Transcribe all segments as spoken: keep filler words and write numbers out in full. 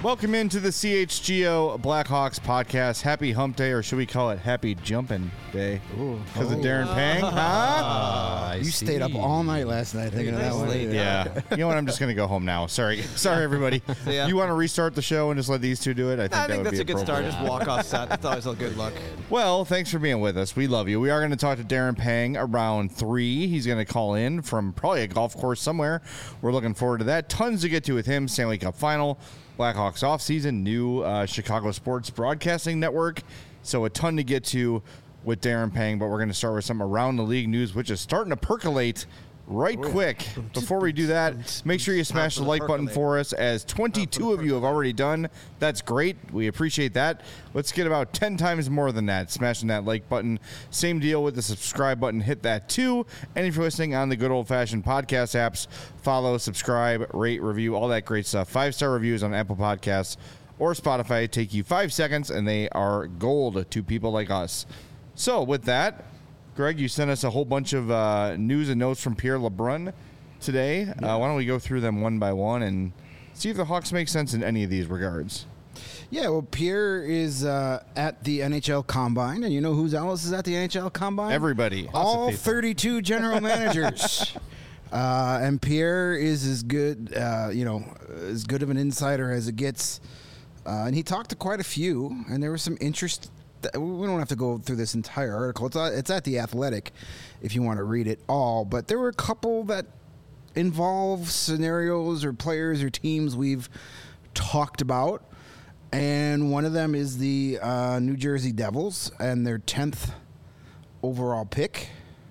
Welcome into the C H G O Blackhawks podcast. Happy Hump Day, or should we call it Happy Jumping Day? Because of Darren Pang, huh? Uh, you stayed up all night last night thinking of that one. Yeah. You know what? I'm just going to go home now. Sorry. Sorry, everybody. Yeah. You want to restart the show and just let these two do it? I think, I that think would that's be a good start. appropriate. Just walk off set. That's always a good look. Well, thanks for being with us. We love you. We are going to talk to Darren Pang around three. He's going to call in from probably a golf course somewhere. We're looking forward to that. Tons to get to with him. Stanley Cup Final, Blackhawks offseason, new uh, Chicago Sports Broadcasting Network. So a ton to get to with Darren Pang, but we're going to start with some around the league news, which is starting to percolate right quick. Before we do that, make sure you smash the like button for us, as twenty-two of you have already done. That's great. We appreciate that. Let's get about ten times more than that, smashing that like button. Same deal with the subscribe button. Hit that too. And if you're listening on the good old-fashioned podcast apps, follow, subscribe, rate, review, all that great stuff. Five-star reviews on Apple Podcasts or Spotify take you five seconds, and they are gold to people like us. So with that, Greg, you sent us a whole bunch of uh, news and notes from Pierre LeBrun today. Yeah. Uh, why don't we go through them one by one and see if the Hawks make sense in any of these regards? Yeah, well, Pierre is uh, at the N H L Combine, and you know who else is at the N H L Combine? Everybody. All thirty-two general managers. Uh, and Pierre is as good, uh, you know, as good of an insider as it gets. Uh, and he talked to quite a few, and there was some interest. We don't have to go through this entire article. It's, it's at The Athletic if you want to read it all. But there were a couple that involve scenarios or players or teams we've talked about. And one of them is the uh, New Jersey Devils and their tenth overall pick.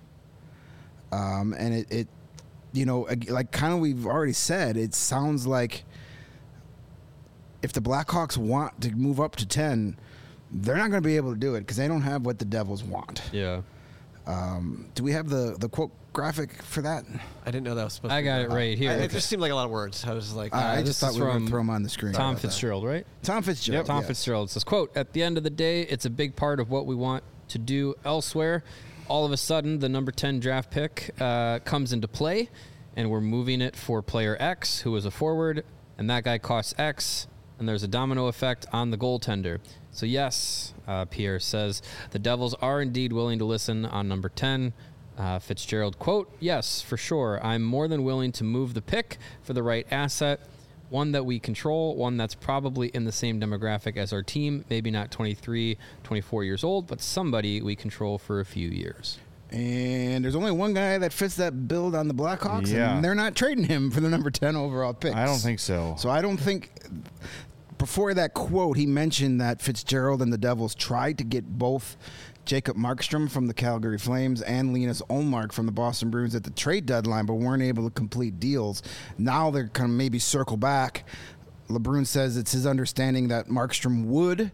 Um, and it, it, you know, like kind of we've already said, it sounds like if the Blackhawks want to move up to ten, they're not going to be able to do it because they don't have what the Devils want. Yeah. Um, do we have the, the quote graphic for that? I didn't know that was supposed I to be. got it right here. I, it just seemed like a lot of words. I was like, uh, I this just thought is we were going from to throw them on the screen. Tom Fitzgerald, right? Tom Fitzgerald. Yep. Tom yeah. Fitzgerald says, quote, "At the end of the day, it's a big part of what we want to do elsewhere. All of a sudden, the number ten draft pick uh, comes into play, and we're moving it for player X, who is a forward, and that guy costs X, and there's a domino effect on the goaltender. So yes," uh, Pierre says, "the Devils are indeed willing to listen on number ten. Uh, Fitzgerald, quote, "Yes, for sure. I'm more than willing to move the pick for the right asset, one that we control, one that's probably in the same demographic as our team, maybe not twenty-three, twenty-four years old, but somebody we control for a few years." And there's only one guy that fits that build on the Blackhawks, Yeah. and they're not trading him for the number ten overall pick. I don't think so. So I don't think... Before that quote, he mentioned that Fitzgerald and the Devils tried to get both Jacob Markstrom from the Calgary Flames and Linus Ullmark from the Boston Bruins at the trade deadline, but weren't able to complete deals. Now they're going to maybe circle back. LeBrun says it's his understanding that Markstrom would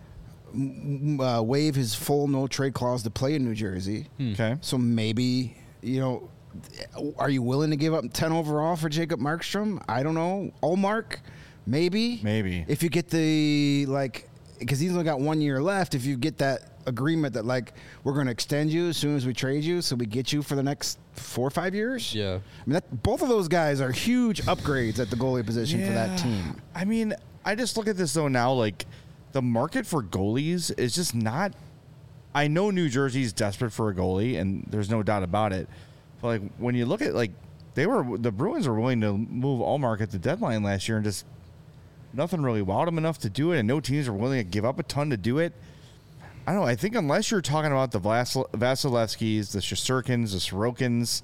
uh, waive his full no-trade clause to play in New Jersey. Okay. So maybe, you know, are you willing to give up ten overall for Jacob Markstrom? I don't know. Ullmark? Maybe. Maybe. If you get the, like, because he's only got one year left, if you get that agreement that, like, we're going to extend you as soon as we trade you, so we get you for the next four or five years. Yeah. I mean, that, both of those guys are huge upgrades at the goalie position for that team. I mean, I just look at this, though, now, like, the market for goalies is just not... I know New Jersey's desperate for a goalie, and there's no doubt about it. But, like, when you look at, like, they were... The Bruins were willing to move Ullmark at the deadline last year and just... Nothing really wowed them enough to do it, and no teams are willing to give up a ton to do it. I don't know. I think unless you're talking about the Vasil- Vasilevskis, the Shesterkins, the Sorokins,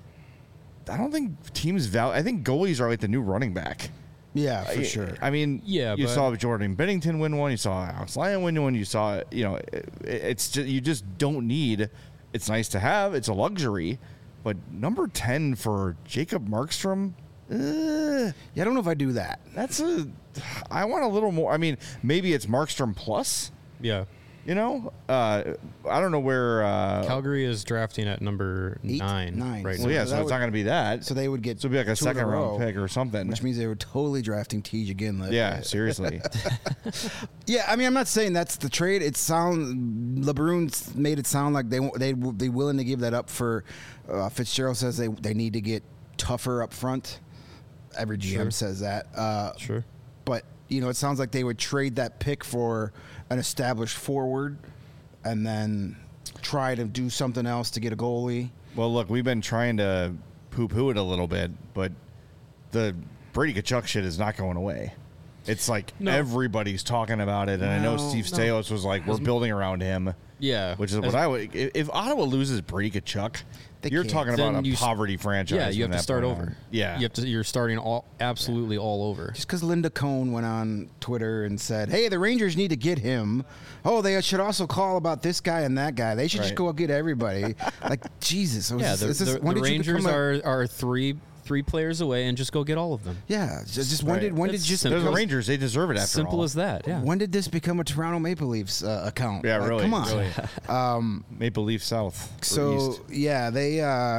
I don't think teams value. I think goalies are like the new running back. Yeah, for I, sure. I mean, Yeah, you but- saw Jordan Bennington win one. You saw Alex Lyon win one. You saw, you know, it, it's just, you just don't need. It's nice to have. It's a luxury, but number ten for Jacob Markstrom. Uh, Yeah, I don't know if I do that. that's a. I want a little more. I mean, maybe it's Markstrom plus. Yeah. You know, uh, I don't know where. Uh, Calgary is drafting at number Eight? nine, Nine. right well, now. yeah, So so that it's would- not going to be that. So they would get So it'd be like a two in a second round row, pick or something. which means they were totally drafting Tej Ginla. Yeah, seriously. Yeah, I mean, I'm not saying that's the trade. It sound LeBrun made it sound like they they they willing to give that up for. Uh, Fitzgerald says they they need to get tougher up front. Every G M Sure. says that. Uh, Sure. But you know, it sounds like they would trade that pick for an established forward, and then try to do something else to get a goalie. Well, look, we've been trying to poo-poo it a little bit, but the Brady Tkachuk shit is not going away. It's like No. everybody's talking about it, and I know No, Steve no. Staios was like, "We're building around him," Yeah, which is what As- I would. If if Ottawa loses Brady Tkachuk, They you're can't. talking about Then a you s- poverty franchise. Yeah, you from have to that start point over. on. Yeah, you have to. You're starting all absolutely all over. Just because Linda Cohn went on Twitter and said, "Hey, the Rangers need to get him. Oh, they should also call about this guy and that guy. They should just Right. go get everybody." Like Jesus. it was- Yeah, the, this is- the, when the did you Rangers become a- are are three three players away, and just go get all of them. Yeah, just, just when Right. did when did That's just they're the simple. Rangers. They deserve it. After Simple all. as that. Yeah. when did this become a Toronto Maple Leafs uh, account? Yeah, Like, really. Come on. really. Um, Maple Leaf South. or so East. yeah, they. Uh,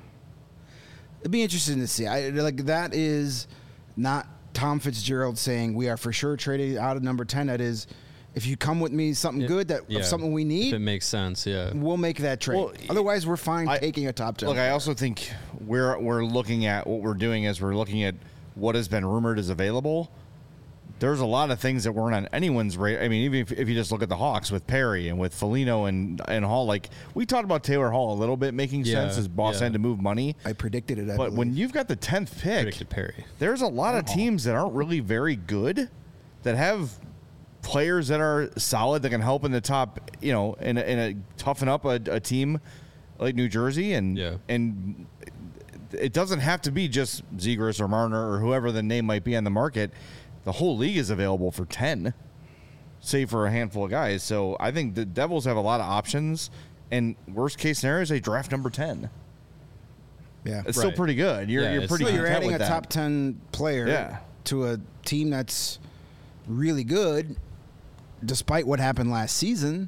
it'd be interesting to see. I like that is not Tom Fitzgerald saying we are for sure trading out of number ten. That is, if you come with me something It- good that yeah. of something we If need, it makes sense, yeah. we'll make that trade. Well, Otherwise, we're fine I- taking a top ten. Look, I also think we're we're looking at what we're doing is we're looking at what has been rumored is available. There's a lot of things that weren't on anyone's radar. I mean, even if, if you just look at the Hawks with Perry and with Foligno and and Hall, like we talked about Taylor Hall a little bit making Yeah, sense as boss yeah. had to move money. I predicted it. I But when believe. you've got the tenth pick, Predicted Perry. there's a lot of teams that aren't really very good that have players that are solid that can help in the top, you know, in a, in a toughen up a, a team like New Jersey, and Yeah. and it doesn't have to be just Zegras or Marner or whoever the name might be on the market. The whole league is available for ten, save for a handful of guys. So I think the Devils have a lot of options, and worst case scenario is they draft number ten. yeah, It's still Right. pretty good. You're Yeah, you're it's pretty. so not- you're content adding a with that. top ten player Yeah. to a team that's really good, despite what happened last season.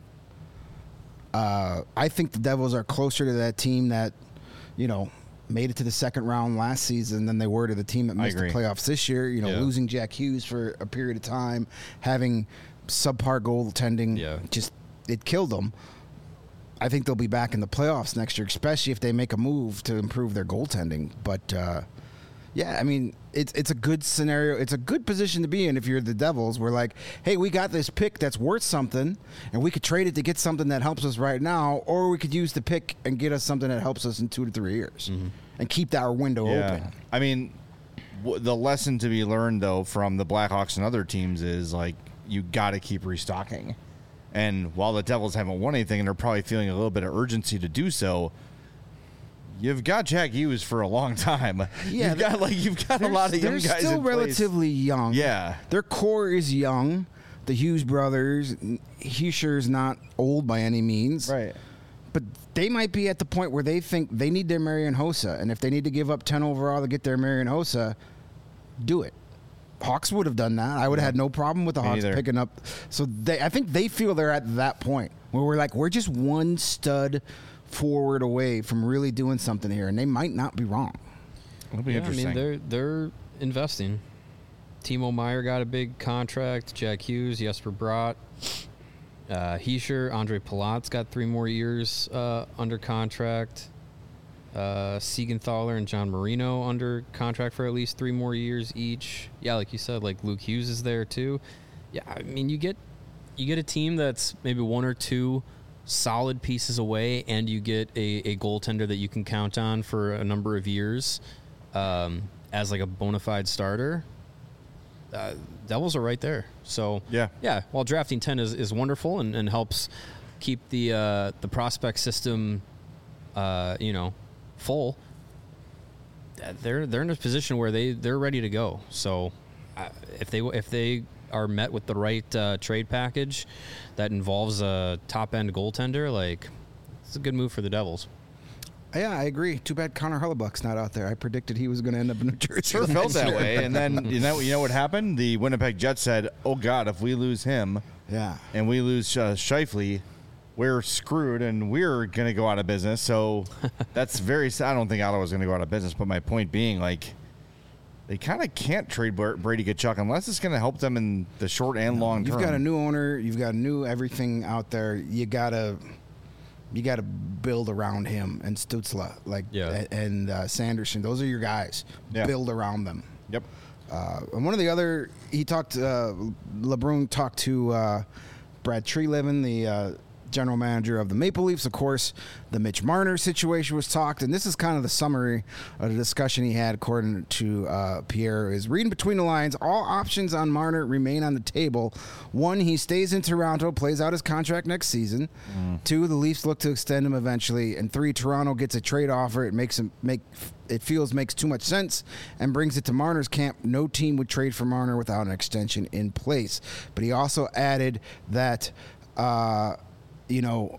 Uh, I think the Devils are closer to that team that, you know, made it to the second round last season than they were to the team that I missed the agree. playoffs this year. You know, Yeah. losing Jack Hughes for a period of time, having subpar goaltending, Yeah. just it killed them. I think they'll be back in the playoffs next year, especially if they make a move to improve their goaltending. But uh, yeah, I mean, it's it's a good scenario. It's a good position to be in if you're the Devils. We're like, hey, we got this pick that's worth something, and we could trade it to get something that helps us right now, or we could use the pick and get us something that helps us in two to three years, and keep that window open. I mean, w- the lesson to be learned though from the Blackhawks and other teams is like you got to keep restocking. And while the Devils haven't won anything and they're probably feeling a little bit of urgency to do so, you've got Jack Hughes for a long time. Yeah, you've got like you've got a lot of young they're guys. still in place. relatively young. Yeah. Their core is young. The Hughes brothers, Heischer's not old by any means. Right. But they might be at the point where they think they need their Marian Hossa. And if they need to give up ten overall to get their Marian Hossa, do it. Hawks would have done that. I would have had no problem with the Me Hawks neither. picking up. So they, I think they feel they're at that point where we're like, we're just one stud forward away from really doing something here. And they might not be wrong. It'll be Yeah, I interesting. mean, they're they're investing. Timo Meyer got a big contract. Jack Hughes, Jesper Bratt, uh, Heischer, Andre Palat's got three more years uh, under contract. Uh, Siegenthaler and John Marino under contract for at least three more years each. Yeah, like you said, like Luke Hughes is there too. Yeah, I mean, you get you get a team that's maybe one or two solid pieces away, and you get a, a goaltender that you can count on for a number of years um, as like a bona fide starter. Uh, Devils are right there. So Yeah. yeah. While drafting ten is, is wonderful and, and helps keep the uh, the prospect system, uh, you know, full. uh, They're they're in a position where they they're ready to go. So uh, if they if they are met with the right uh, trade package that involves a top end goaltender, like it's a good move for the Devils. Yeah, I agree. Too bad Connor Hellebuck's not out there. I predicted he was going to end up in New Jersey. Sure felt next that year. way. And then you know you know what happened? The Winnipeg Jets said, "Oh God, if we lose him Yeah. and we lose uh, Scheifele, we're screwed and we're going to go out of business." So that's very sad. I don't think Ottawa's going to go out of business. But my point being, like, they kind of can't trade Br- Brady Tkachuk unless it's going to help them in the short and long term. You've got a new owner. You've got new everything out there. You gotta, you gotta build around him and Stutzla, like Yeah. a- and uh, Sanderson. Those are your guys. Yeah. Build around them. Yep. Uh, and one of the other, he talked, uh, LeBrun talked to uh, Brad Treliving, the uh, general manager of the Maple Leafs. Of course, the Mitch Marner situation was talked, and this is kind of the summary of the discussion he had, according to uh, Pierre, is reading between the lines, all options on Marner remain on the table. One, he stays in Toronto, plays out his contract next season. Mm. Two, the Leafs look to extend him eventually. And three, Toronto gets a trade offer. It makes him make it feels makes too much sense and brings it to Marner's camp. No team would trade for Marner without an extension in place. But he also added that, uh, you know,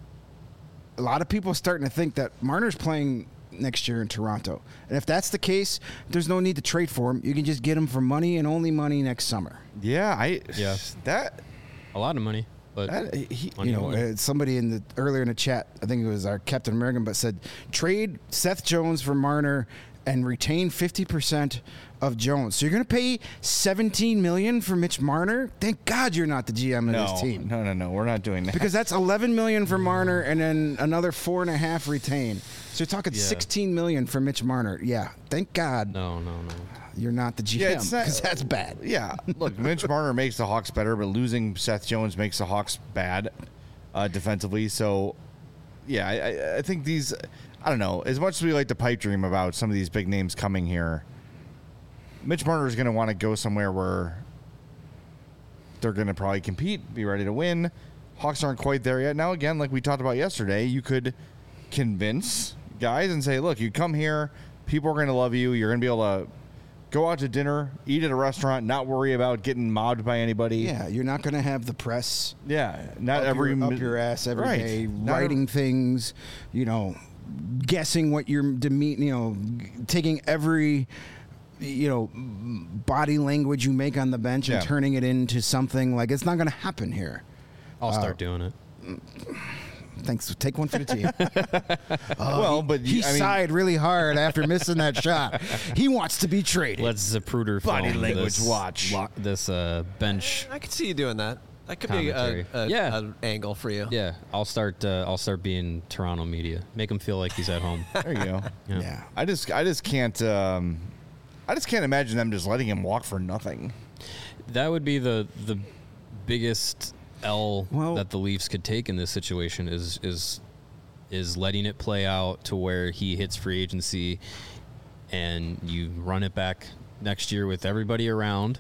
a lot of people are starting to think that Marner's playing next year in Toronto. And if that's the case, there's no need to trade for him. You can just get him for money and only money next summer. Yeah, I Yeah. that A lot of money, but that he, money You know, only. uh, somebody in the earlier in the chat, I think it was our Captain American, but said trade Seth Jones for Marner and retain fifty percent of Jones. So you're going to pay seventeen million dollars for Mitch Marner? Thank God you're not the G M of no, this team. no, no, no. We're not doing that. Because that's eleven million dollars for Marner and then another four and a half retain. So you're talking Yeah. sixteen million dollars for Mitch Marner. Yeah, thank God no, no, no. you're not the G Yeah, M it's not- because that's bad. Yeah, look, Mitch Marner makes the Hawks better, but losing Seth Jones makes the Hawks bad uh, defensively. So, yeah, I, I, I think these. I don't know. As much as we like to pipe dream about some of these big names coming here, Mitch Marner is going to want to go somewhere where they're going to probably compete, be ready to win. Hawks aren't quite there yet. Now, again, like we talked about yesterday, you could convince guys and say, look, you come here, people are going to love you. You're going to be able to go out to dinner, eat at a restaurant, not worry about getting mobbed by anybody. Yeah, you're not going to have the press Yeah, not up every your, up mi- your ass every right. day, Not writing things, you know, guessing what your deme- you know, taking every, you know, body language you make on the bench and Yeah. turning it into something. Like, it's not going to happen here. I'll start doing it. Thanks. Take one for the team. well, but He you- I mean, sighed really hard after missing that shot. He wants to be traded. Let's Zapruder Body film language this, watch. this uh, bench. I could see you doing that. That could Commentary. be a, a, Yeah. an angle for you. Yeah, I'll start. Uh, I'll start being Toronto media. Make him feel like he's at home. there you go. Yeah. Yeah. I just, I just can't, um, I just can't imagine them just letting him walk for nothing. That would be the the biggest L Well- that the Leafs could take in this situation is is is letting it play out to where he hits free agency, and you run it back next year with everybody around,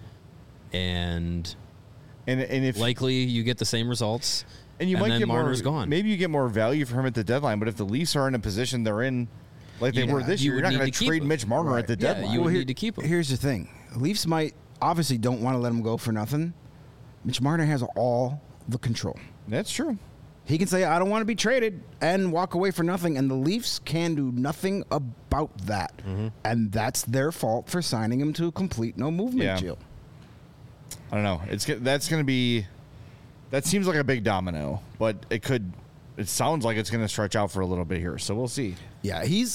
and And and if likely you get the same results. and you and might then get Marner's more, gone. maybe you get more value for him at the deadline. But if the Leafs are in a position they're in, like they Yeah, were this you year, you're would not going need to to keep trade him. Mitch Marner at the Yeah, deadline. you would Well, need to keep him. Here's the thing. Leafs might obviously don't want to let him go for nothing. Mitch Marner has all the control. That's true. He can say, I don't want to be traded and walk away for nothing. And the Leafs can do nothing about that. Mm-hmm. And that's their fault for signing him to a complete no movement Yeah. deal. I don't know. It's go- that's going to be. That seems like a big domino, but it could. It sounds like it's going to stretch out for a little bit here, so we'll see. Yeah, he's.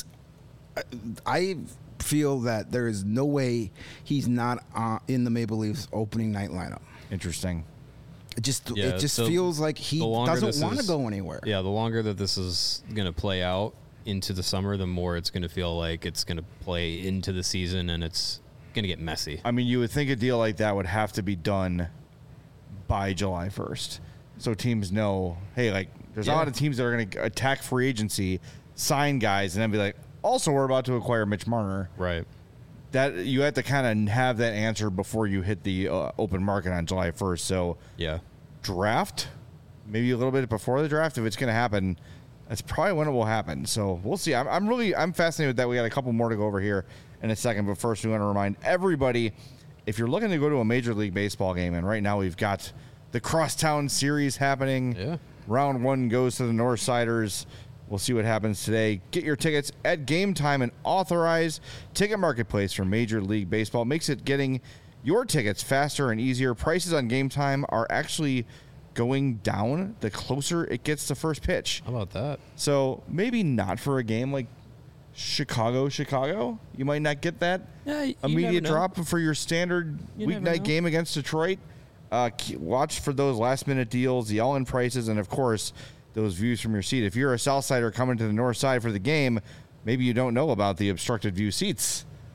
I feel that there is no way he's not uh, in the Maple Leafs opening night lineup. Interesting. It just Yeah, it just so feels like he the longer doesn't this want to is- go anywhere. Yeah, the longer that this is going to play out into the summer, the more it's going to feel like it's going to play into the season, and it's going to get messy. I mean, you would think a deal like that would have to be done by July first, so teams know, hey, like there's a Yeah. lot of teams that are going to attack free agency, sign guys, and then be like, also we're about to acquire Mitch Marner. Right. That you have to kind of have that answer before you hit the uh, open market on July first. So Yeah. draft, maybe a little bit before the draft, if it's going to happen, that's probably when it will happen. So we'll see. I'm, I'm really I'm fascinated with that. We got a couple more to go over here in a second, but first we want to remind everybody, if you're looking to go to a Major League Baseball game, and right now we've got the Crosstown Series happening. Yeah. Round one goes to the Northsiders. We'll see what happens today. Get your tickets at Game Time, and authorized ticket marketplace for Major League Baseball. Makes it getting your tickets faster and easier. Prices on Game Time are actually going down the closer it gets to first pitch. How about that? So maybe not for a game like Chicago, Chicago. You might not get that Yeah, you immediate never know. drop for your standard You never weeknight know. game against Detroit. Uh, ke- watch for those last minute deals, the all in prices, and of course, those views from your seat. If you're a Southsider coming to the North Side for the game, maybe you don't know about the obstructed view seats.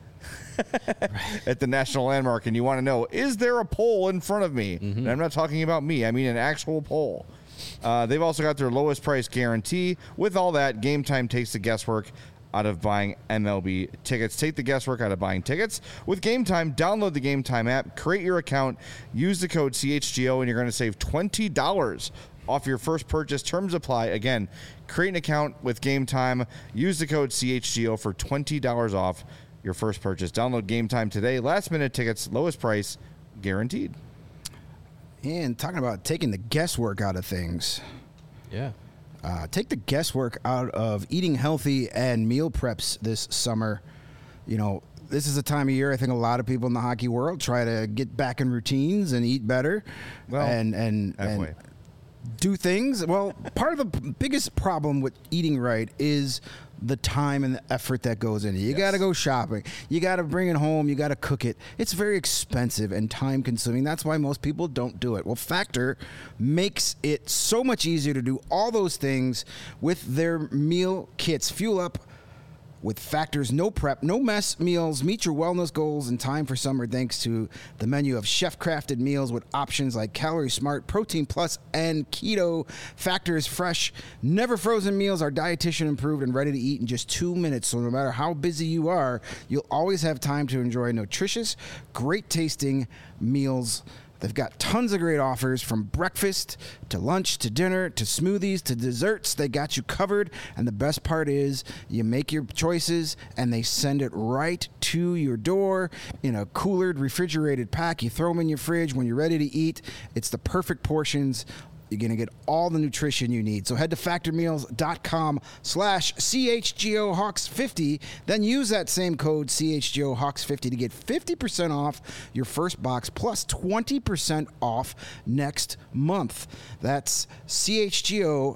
at the National Landmark and you want to know, is there a pole in front of me? Mm-hmm. And I'm not talking about me. I mean an actual pole. Uh, they've also got their lowest price guarantee. With all that, Game Time takes the guesswork out of buying M L B tickets. Take the guesswork out of buying tickets. With Game Time, download the Game Time app, create your account, use the code C H G O, and you're going to save twenty dollars off your first purchase. Terms apply. Again, create an account with Game Time. Use the code C H G O for twenty dollars off your first purchase. Download Game Time today. Last minute tickets, lowest price, guaranteed. And talking about taking the guesswork out of things. Yeah. Uh, take the guesswork out of eating healthy and meal preps this summer. You know, this is a time of year I think a lot of people in the hockey world try to get back in routines and eat better Well, and and, halfway. and do things. Well, part of the p- biggest problem with eating right is the time and the effort that goes into it. You Yes. got to go shopping. You got to bring it home. You got to cook it. It's very expensive and time consuming. That's why most people don't do it. Well, Factor makes it so much easier to do all those things with their meal kits. Fuel up with Factor's no prep, no mess meals. Meet your wellness goals in time for summer thanks to the menu of chef-crafted meals with options like Calorie Smart, Protein Plus, and Keto. Factor's fresh, never frozen meals are dietitian approved and ready to eat in just two minutes. So no matter how busy you are, you'll always have time to enjoy nutritious, great tasting meals. They've got tons of great offers from breakfast to lunch to dinner to smoothies to desserts. They got you covered. And the best part is you make your choices and they send it right to your door in a coolered, refrigerated pack. You throw them in your fridge when you're ready to eat. It's the perfect portions. You're going to get all the nutrition you need. So head to factormeals.com slash CHGO Hawks 50. Then use that same code C H G O Hawks 50 to get fifty percent off your first box plus twenty percent off next month. That's C H G O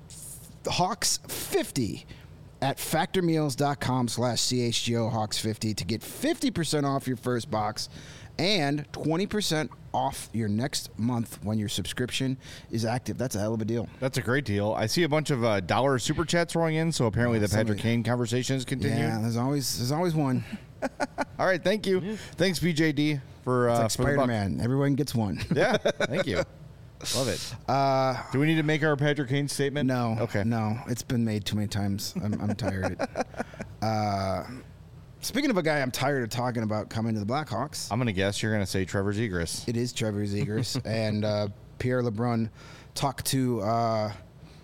Hawks 50 at factormeals.com slash CHGO Hawks 50 to get fifty percent off your first box and twenty percent off your next month when your subscription is active. That's a hell of a deal. That's a great deal. I see a bunch of uh, dollar super chats rolling in, so apparently the Somebody- Patrick Kane conversation is continuing. Yeah, there's always there's always one. All right, thank you. Thanks, B J D, for, uh, It's like for the buck. Spider-Man. Everyone gets one. Yeah, thank you. Love it. Uh, Do we need to make our Patrick Kane statement? No. Okay. No, it's been made too many times. I'm, I'm tired. uh, speaking of a guy I'm tired of talking about coming to the Blackhawks, I'm going to guess you're going to say Trevor Zegras. it is Trevor Zegras. and uh, Pierre LeBrun talked to uh,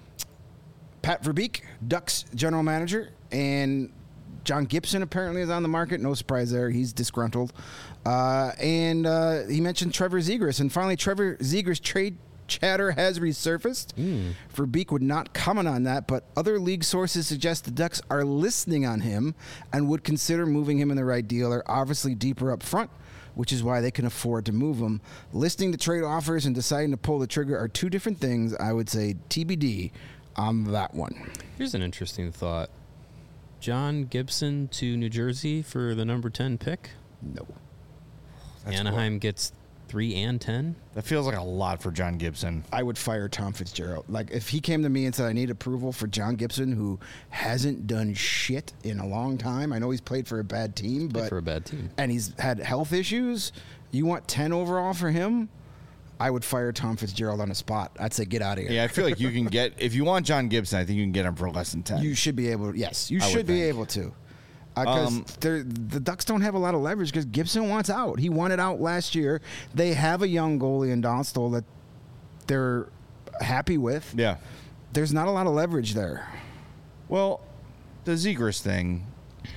Pat Verbeek, Ducks general manager, and John Gibson apparently is on the market. No surprise there. He's disgruntled. Uh, and uh, he mentioned Trevor Zegras. And finally, Trevor Zegras' trade chatter has resurfaced. Mm. Verbeek would not comment on that, but other league sources suggest the Ducks are listening on him and would consider moving him in the right deal. They're obviously deeper up front, which is why they can afford to move him. Listening to trade offers and deciding to pull the trigger are two different things. I would say T B D on that one. Here's an interesting thought. John Gibson to New Jersey for the number ten pick. No. That's Anaheim cool. gets three and ten. That feels like a lot for John Gibson. I would fire Tom Fitzgerald. Like, if he came to me and said, I need approval for John Gibson, who hasn't done shit in a long time. I know he's played for a bad team, Played but for a bad team. and he's had health issues. You want ten overall for him? I would fire Tom Fitzgerald on the spot. I'd say, get out of here. Yeah, I feel like you can get, if you want John Gibson, I think you can get him for less than ten. You should be able to. Yes, you I should would be think. able to. Because Um, the Ducks don't have a lot of leverage because Gibson wants out. He wanted out last year. They have a young goalie in Dostal that they're happy with. yeah. There's not a lot of leverage there. Well, the Zegras thing,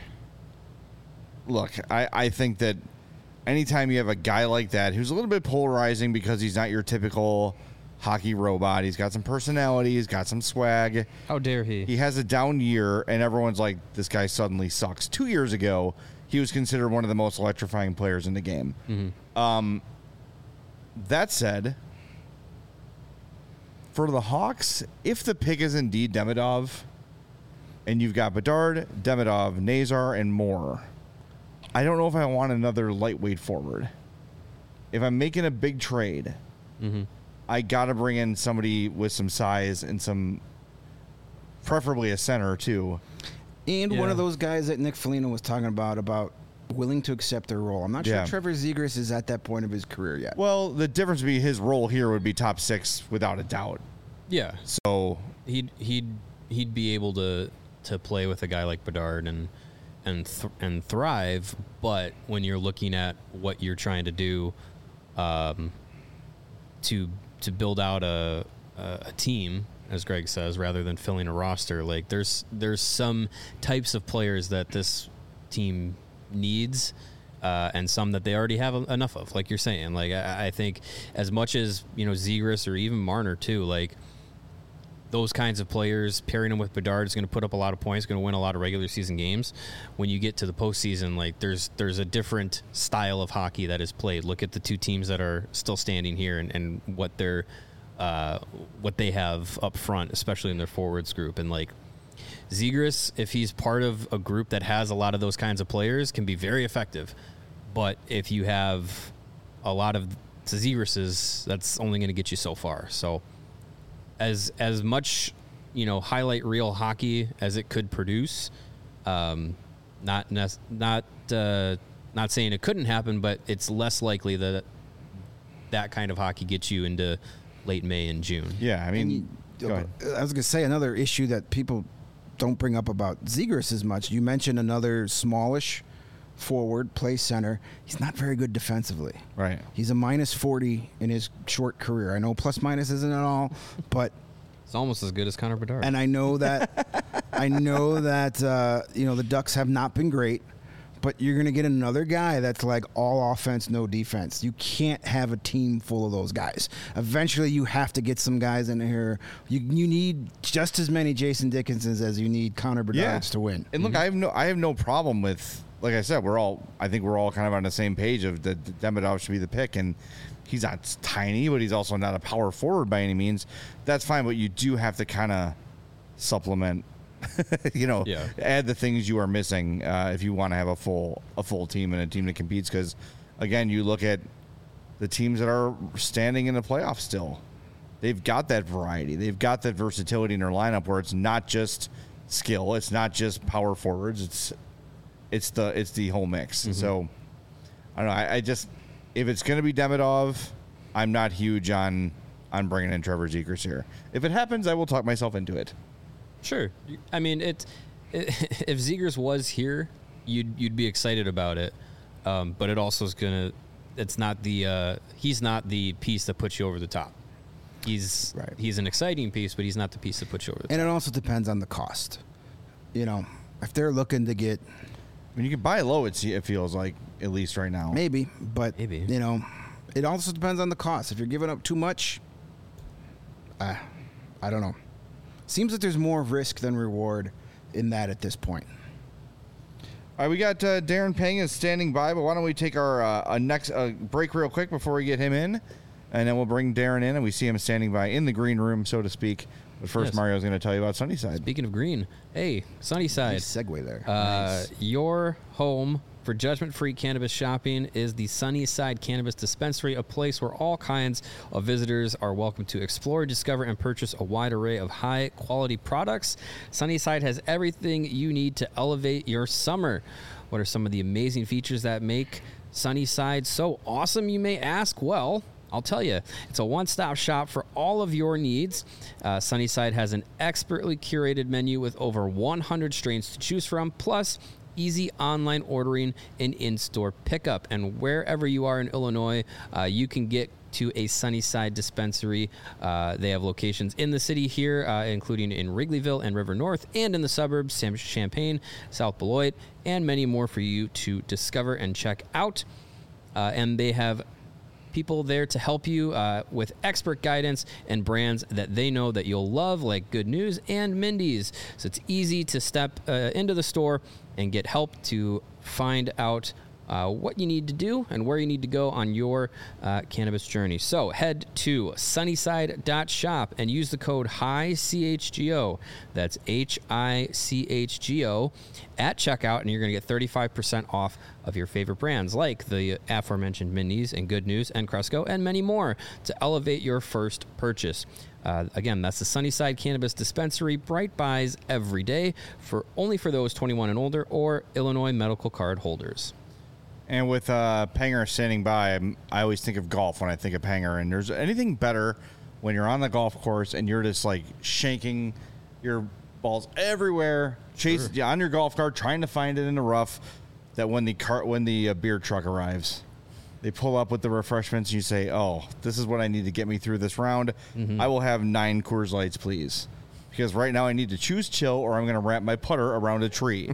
look, I, I think that anytime you have a guy like that who's a little bit polarizing because he's not your typical hockey robot, he's got some personality, he's got some swag. How dare he? He has a down year, and everyone's like, this guy suddenly sucks. Two years ago, he was considered one of the most electrifying players in the game. Mm-hmm. Um, that said, for the Hawks, if the pick is indeed Demidov, and you've got Bedard, Demidov, Nazar, and more, I don't know if I want another lightweight forward. If I'm making a big trade, mm-hmm. I got to bring in somebody with some size and some, preferably a center too. And Yeah. one of those guys that Nick Foligno was talking about, about willing to accept their role. I'm not sure Yeah. Trevor Zegras is at that point of his career yet. Well, the difference would be his role here would be top six without a doubt. Yeah. So He'd he'd he'd be able to to play with a guy like Bedard and and th- and thrive. But when you're looking at what you're trying to do, um, to to build out a a, a team, as Greg says, rather than filling a roster, like there's there's some types of players that this team needs. Uh, and some that they already have a- enough of, like you're saying. Like I, I think, as much as you know, Zegras or even Marner too, like those kinds of players, pairing them with Bedard is going to put up a lot of points, going to win a lot of regular season games. When you get to the postseason, like there's there's a different style of hockey that is played. Look at the two teams that are still standing here and, and what they're uh, what they have up front, especially in their forwards group. And like Zegras, if he's part of a group that has a lot of those kinds of players, can be very effective. But if you have a lot of Zegras's, that's only going to get you so far. So as as much, you know, highlight reel hockey as it could produce, um, not nec- not uh, not saying it couldn't happen, but it's less likely that that kind of hockey gets you into late May and June. yeah, I mean, You- go ahead. I was going to say another issue that people don't bring up about Zegras as much. You mentioned another smallish forward, play center. He's not very good defensively. Right. He's a minus forty in his short career. I know plus minus isn't at all, but It's almost as good as Connor Bedard. and I know that I know that uh, you know the Ducks have not been great, but you're going to get another guy that's like all offense, no defense. You can't have a team full of those guys. Eventually, you have to get some guys in here. You you need just as many Jason Dickinsons as you need Connor Bedards Yeah. to win. And look, I have no, I have no problem with, like I said, we're all, I think we're all kind of on the same page of that Demidov should be the pick, and he's not tiny, but he's also not a power forward by any means. That's fine, but you do have to kind of supplement, you know, Yeah. add the things you are missing uh, if you want to have a full a full team and a team that competes. Because again, you look at the teams that are standing in the playoffs still. They've got that variety. They've got that versatility in their lineup where it's not just skill, it's not just power forwards. It's it's the it's the whole mix. So I don't know. I, I just if it's going to be Demidov, I'm not huge on on bringing in Trevor Zegras here. If it happens, I will talk myself into it. Sure. I mean, it, it if Zegras was here, you'd you'd be excited about it. Um, but it also is gonna. It's not the. Uh, he's not the piece that puts you over the top. He's Right. he's an exciting piece, but he's not the piece that puts you over the top. And it also depends on the cost. You know, if they're looking to get I mean, you can buy low. It it feels like at least right now. maybe, but Maybe. you know, it also depends on the cost. If you're giving up too much, uh, I don't know. Seems that there's more risk than reward in that at this point. All right, we got uh, Darren Pang is standing by, but why don't we take our uh, a next uh, break real quick before we get him in, and then we'll bring Darren in, and we see him standing by in the green room, so to speak. But first, Yes. Mario's going to tell you about Sunnyside. Speaking of green, hey, Sunnyside. Nice segue there. Uh, Your home for judgment-free cannabis shopping is the Sunnyside Cannabis Dispensary, a place where all kinds of visitors are welcome to explore, discover, and purchase a wide array of high-quality products. Sunnyside has everything you need to elevate your summer. What are some of the amazing features that make Sunnyside so awesome, you may ask? Well, I'll tell you, it's a one-stop shop for all of your needs. Uh, Sunnyside has an expertly curated menu with over one hundred strains to choose from, plus easy online ordering and in-store pickup. And wherever you are in Illinois, uh, you can get to a Sunnyside dispensary. Uh, they have locations in the city here, uh, including in Wrigleyville and River North, and in the suburbs, Sam- Champaign, South Beloit, and many more for you to discover and check out. Uh, and they have people there to help you uh, with expert guidance and brands that they know that you'll love, like Good News and Mindy's. So it's easy to step uh, into the store and get help to find out uh, what you need to do and where you need to go on your uh, cannabis journey. So head to sunnyside dot shop and use the code HICHGO. That's H I C H G O at checkout, and you're going to get thirty-five percent off of your favorite brands like the aforementioned Mindy's and Good News and Cresco and many more to elevate your first purchase. Uh, again, that's the Sunnyside Cannabis Dispensary. Bright buys every day for only for those twenty-one and older or Illinois medical card holders. And with uh, Panger standing by, I'm, I always think of golf when I think of Panger. And there's anything better when you're on the golf course and you're just like shanking your balls everywhere, chasing sure. on your golf cart, trying to find it in the rough. That when the cart, when the uh, beer truck arrives, they pull up with the refreshments. And you say, "Oh, this is what I need to get me through this round. Mm-hmm. I will have nine Coors Lights, please." Because right now I need to choose chill or I'm going to wrap my putter around a tree.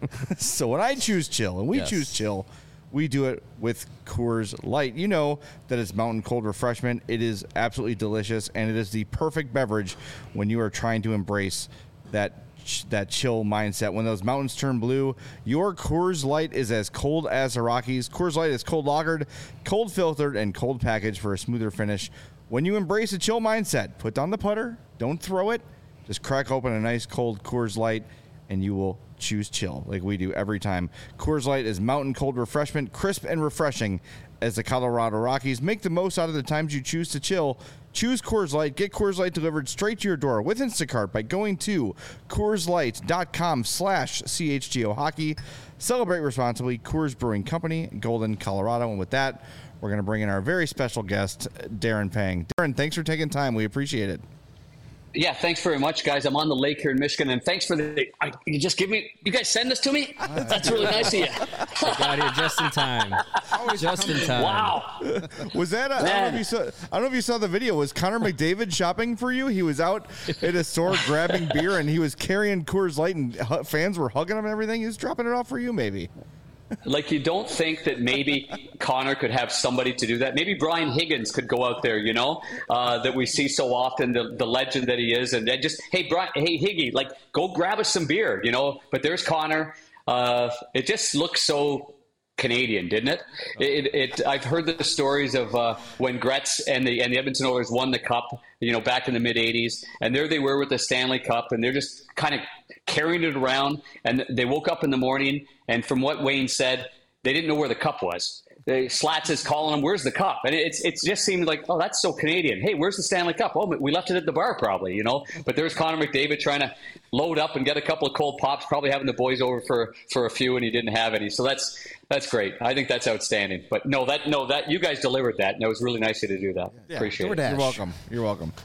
So when I choose chill and we yes. choose chill, we do it with Coors Light. You know that it's mountain cold refreshment. It is absolutely delicious, and it is the perfect beverage when you are trying to embrace that that chill mindset. When those mountains turn blue, your Coors Light is as cold as the Rockies. Coors Light is cold lagered, cold filtered, and cold packaged for a smoother finish. When you embrace a chill mindset, put down the putter, don't throw it. Just crack open a nice cold Coors Light, and you will choose chill like we do every time. Coors Light is mountain cold refreshment, crisp and refreshing as the Colorado Rockies. Make the most out of the times you choose to chill. Choose Coors Light. Get Coors Light delivered straight to your door with Instacart by going to CoorsLight.com slash CHGO Hockey. Celebrate responsibly. Coors Brewing Company, Golden, Colorado. And with that, we're going to bring in our very special guest, Darren Pang. Darren, thanks for taking time. We appreciate it. Yeah, thanks very much, guys. I'm on the lake here in Michigan, and thanks for the. I, you just give me. You guys send this to me. That's really nice of you. I got here just in time. Just in time. Wow. Was that? A, I don't know if you saw. I don't know if you saw the video. Was Connor McDavid shopping for you? He was out at a store grabbing beer, and he was carrying Coors Light, and fans were hugging him and everything. He was dropping it off for you, maybe. Like, you don't think that maybe Connor could have somebody to do that? Maybe Brian Higgins could go out there, you know, uh, that we see so often, the, the legend that he is. And just, hey, Brian, hey, Higgy, like, go grab us some beer, you know. But there's Connor. Uh, it just looks so Canadian, didn't it? It, it, it I've heard the stories of uh, when Gretz and the, and the Edmonton Oilers won the Cup, you know, back in the mid-eighties. And there they were with the Stanley Cup, and they're just kind of carrying it around. And they woke up in the morning, and from what Wayne said, they didn't know where the cup was. The Slats is calling them, "Where's the cup?" And it's it just seemed like, oh, that's so Canadian. Hey, where's the Stanley Cup? Oh, we left it at the bar, probably, you know. But there's Connor McDavid trying to load up and get a couple of cold pops, probably having the boys over for, for a few, and he didn't have any. So that's that's great. I think that's outstanding. But no, that no that you guys delivered that, and it was really nice of you to do that. Yeah, Appreciate DoorDash. it. You're welcome. You're welcome.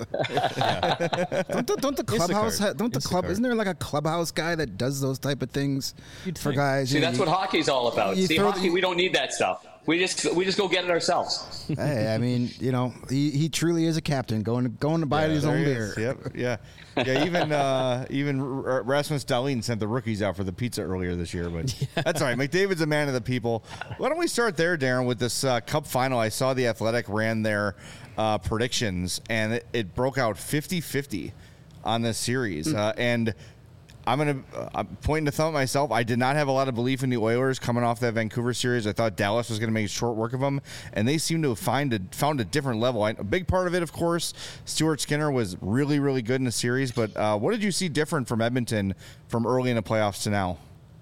don't, the, don't the clubhouse? Ha- don't the club? Isn't there like a clubhouse guy that does those type of things You'd for think. guys? See, you, that's what hockey's all about. See, hockey, the, we don't need that stuff. We just we just go get it ourselves. Hey, I mean, you know, he, he truly is a captain, going to going to buy yeah, his own beer. Is. Yep, yeah, yeah. Even uh, even R- Rasmus Dahlin sent the rookies out for the pizza earlier this year, but yeah. That's all right. McDavid's a man of the people. Why don't we start there, Darren, with this uh, Cup final? I saw the Athletic ran their uh, predictions, and it, it broke out fifty-fifty on this series, mm. uh, and. I'm going to uh, point the thumb at myself. I did not have a lot of belief in the Oilers coming off that Vancouver series. I thought Dallas was going to make short work of them, and they seem to have find a, found a different level. I, a big part of it, of course, Stuart Skinner was really, really good in the series. But uh, what did you see different from Edmonton from early in the playoffs to now?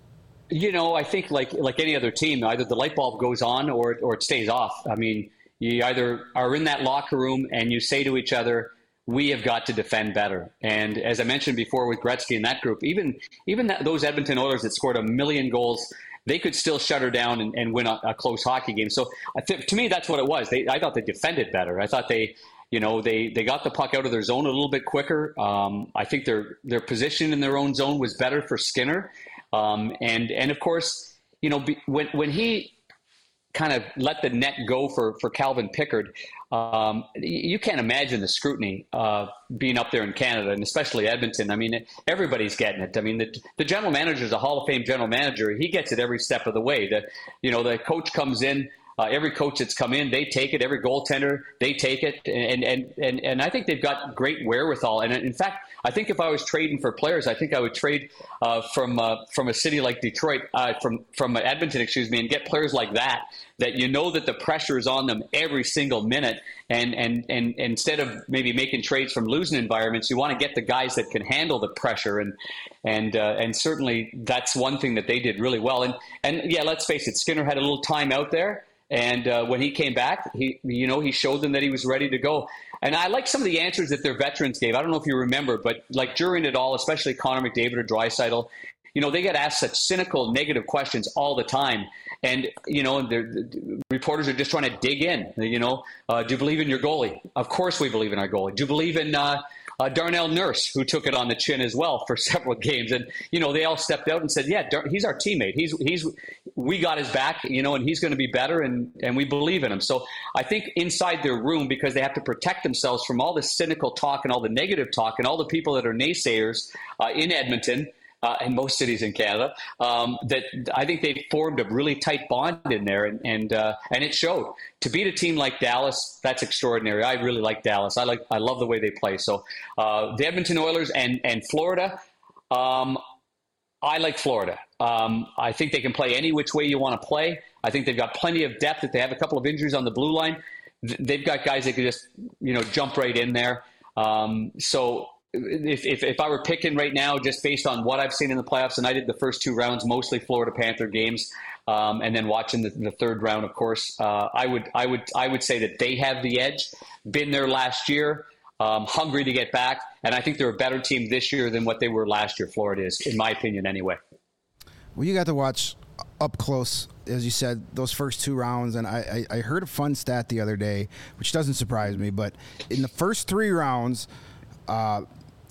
You know, I think like like any other team, either the light bulb goes on or or it stays off. I mean, you either are in that locker room and you say to each other, we have got to defend better. And as I mentioned before with Gretzky and that group, even even that, those Edmonton Oilers that scored a million goals, they could still shut her down and, and win a, a close hockey game. So I th- to me, that's what it was. They, I thought they defended better. I thought they, you know, they, they got the puck out of their zone a little bit quicker. Um, I think their their position in their own zone was better for Skinner. Um, and and of course, you know, be, when when he kind of let the net go for, for Calvin Pickard, um, you can't imagine the scrutiny uh, being up there in Canada, and especially Edmonton. I mean, everybody's getting it. I mean, the, the general manager is a Hall of Fame general manager. He gets it every step of the way. The, you know, the coach comes in, uh, every coach that's come in, they take it. Every goaltender, they take it. And, and, and, and I think they've got great wherewithal. And in fact, I think if I was trading for players, I think I would trade uh, from uh, from a city like Detroit, uh, from from Edmonton, excuse me, and get players like that, that you know that the pressure is on them every single minute. And and and instead of maybe making trades from losing environments, you want to get the guys that can handle the pressure. And and uh, and certainly that's one thing that they did really well. And and yeah, let's face it, Skinner had a little time out there. And uh, when he came back, he, you know, he showed them that he was ready to go. And I like some of the answers that their veterans gave. I don't know if you remember, but like during it all, especially Connor McDavid or Draisaitl, you know, they get asked such cynical, negative questions all the time. And, you know, the reporters are just trying to dig in. You know, uh, do you believe in your goalie? Of course we believe in our goalie. Do you believe in uh, uh, Darnell Nurse, who took it on the chin as well for several games? And, you know, they all stepped out and said, yeah, Dar- he's our teammate. He's, he's, we got his back, you know, and he's going to be better, and, and we believe in him. So I think inside their room, because they have to protect themselves from all the cynical talk and all the negative talk and all the people that are naysayers uh, in Edmonton, Uh, in most cities in Canada, um, that I think they formed a really tight bond in there, and and, uh, and it showed. To beat a team like Dallas, that's extraordinary. I really like Dallas. I like I love the way they play. So uh, the Edmonton Oilers and and Florida, um, I like Florida. Um, I think they can play any which way you want to play. I think they've got plenty of depth. If they have a couple of injuries on the blue line, they've got guys that can just you know jump right in there. Um, so. If, if if I were picking right now, just based on what I've seen in the playoffs, and I did the first two rounds, mostly Florida Panther games, um, and then watching the, the third round, of course, uh, I would I would I would say that they have the edge. Been there last year, um, hungry to get back, and I think they're a better team this year than what they were last year. Florida is, in my opinion, anyway. Well, you got to watch up close, as you said, those first two rounds, and I, I, I heard a fun stat the other day, which doesn't surprise me, but in the first three rounds, uh,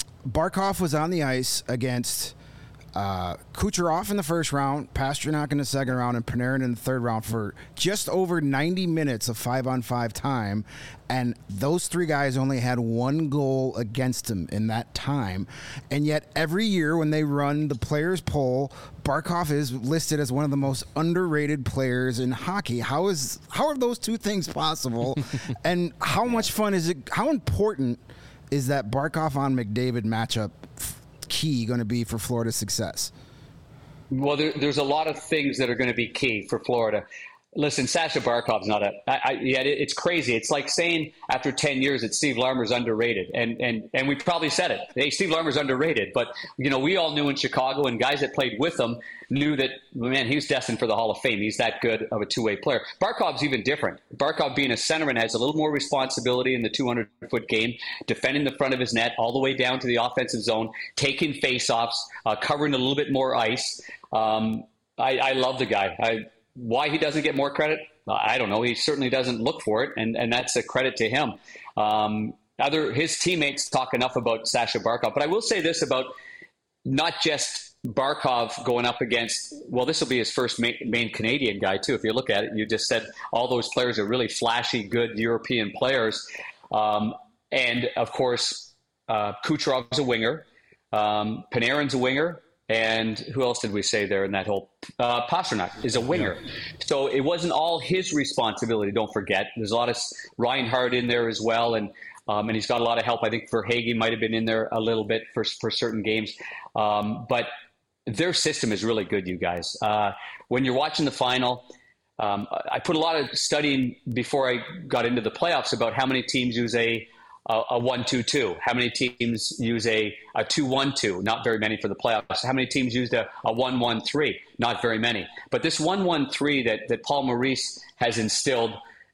Barkov was on the ice against uh, Kucherov in the first round, Pasternak in the second round, and Panarin in the third round for just over ninety minutes of five-on-five time, and those three guys only had one goal against them in that time. And yet every year when they run the players' poll, Barkov is listed as one of the most underrated players in hockey. How is how are those two things possible? And how much fun is it? How important is that Barkov on McDavid matchup key going to be for Florida's success? Well, there, there's a lot of things that are going to be key for Florida. Listen, Sasha Barkov's not a. I, I, yeah, it, it's crazy. It's like saying after ten years that Steve Larmer's underrated, and and and we probably said it. Hey, Steve Larmer's underrated, but you know we all knew in Chicago, and guys that played with him knew that man, he was destined for the Hall of Fame. He's that good of a two-way player. Barkov's even different. Barkov being a centerman has a little more responsibility in the two hundred foot game, defending the front of his net all the way down to the offensive zone, taking faceoffs, uh, covering a little bit more ice. Um, I, I love the guy. I. Why he doesn't get more credit, I don't know. He certainly doesn't look for it, and, and that's a credit to him. Um, other his teammates talk enough about Sasha Barkov, but I will say this about not just Barkov going up against, well, this will be his first main, main Canadian guy, too. If you look at it, you just said all those players are really flashy, good European players. Um, and, of course, uh, Kucherov's a winger. Um, Panarin's a winger. And who else did we say there in that whole uh, Pasternak is a winger. So it wasn't all his responsibility. Don't forget, there's a lot of Reinhardt in there as well. And, um, and he's got a lot of help. I think Verhaeghe might have been in there a little bit for, for certain games. Um, but their system is really good, you guys. Uh, when you're watching the final, um, I put a lot of studying before I got into the playoffs about how many teams use a a one two two. How many teams use a, a two one two? Not very many for the playoffs. How many teams used a, a one one three? Not very many. But this one one three that, that Paul Maurice has instilled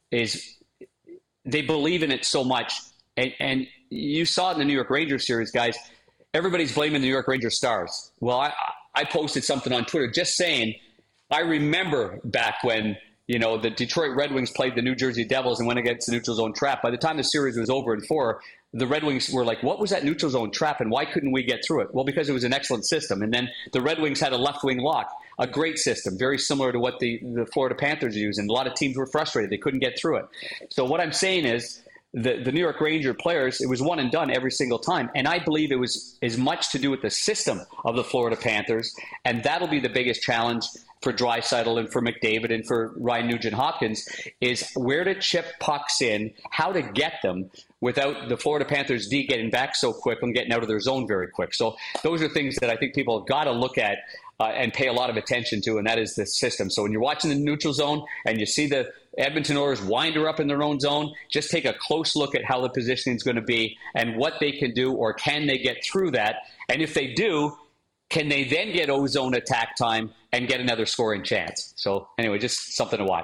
is they believe in it so much. And, and you saw it in the New York Rangers series, guys. Everybody's blaming the New York Rangers stars. Well, I, I posted something on Twitter just saying, I remember back when you know, the Detroit Red Wings played the New Jersey Devils and went against the neutral zone trap. By the time the series was over in four, the Red Wings were like, what was that neutral zone trap and why couldn't we get through it? Well, because it was an excellent system. And then the Red Wings had a left wing lock, a great system, very similar to what the, the Florida Panthers use. And a lot of teams were frustrated. They couldn't get through it. So what I'm saying is the, the New York Ranger players, it was one and done every single time. And I believe it was as much to do with the system of the Florida Panthers. And that'll be the biggest challenge for Draisaitl and for McDavid and for Ryan Nugent-Hopkins is where to chip pucks in, how to get them without the Florida Panthers D getting back so quick and getting out of their zone very quick. So those are things that I think people have got to look at uh, and pay a lot of attention to, and that is the system. So when you're watching the neutral zone and you see the Edmonton Oilers wind her up in their own zone, just take a close look at how the positioning is going to be and what they can do, or can they get through that? And if they do, can they then get ozone attack time and get another scoring chance? So anyway, just something to watch.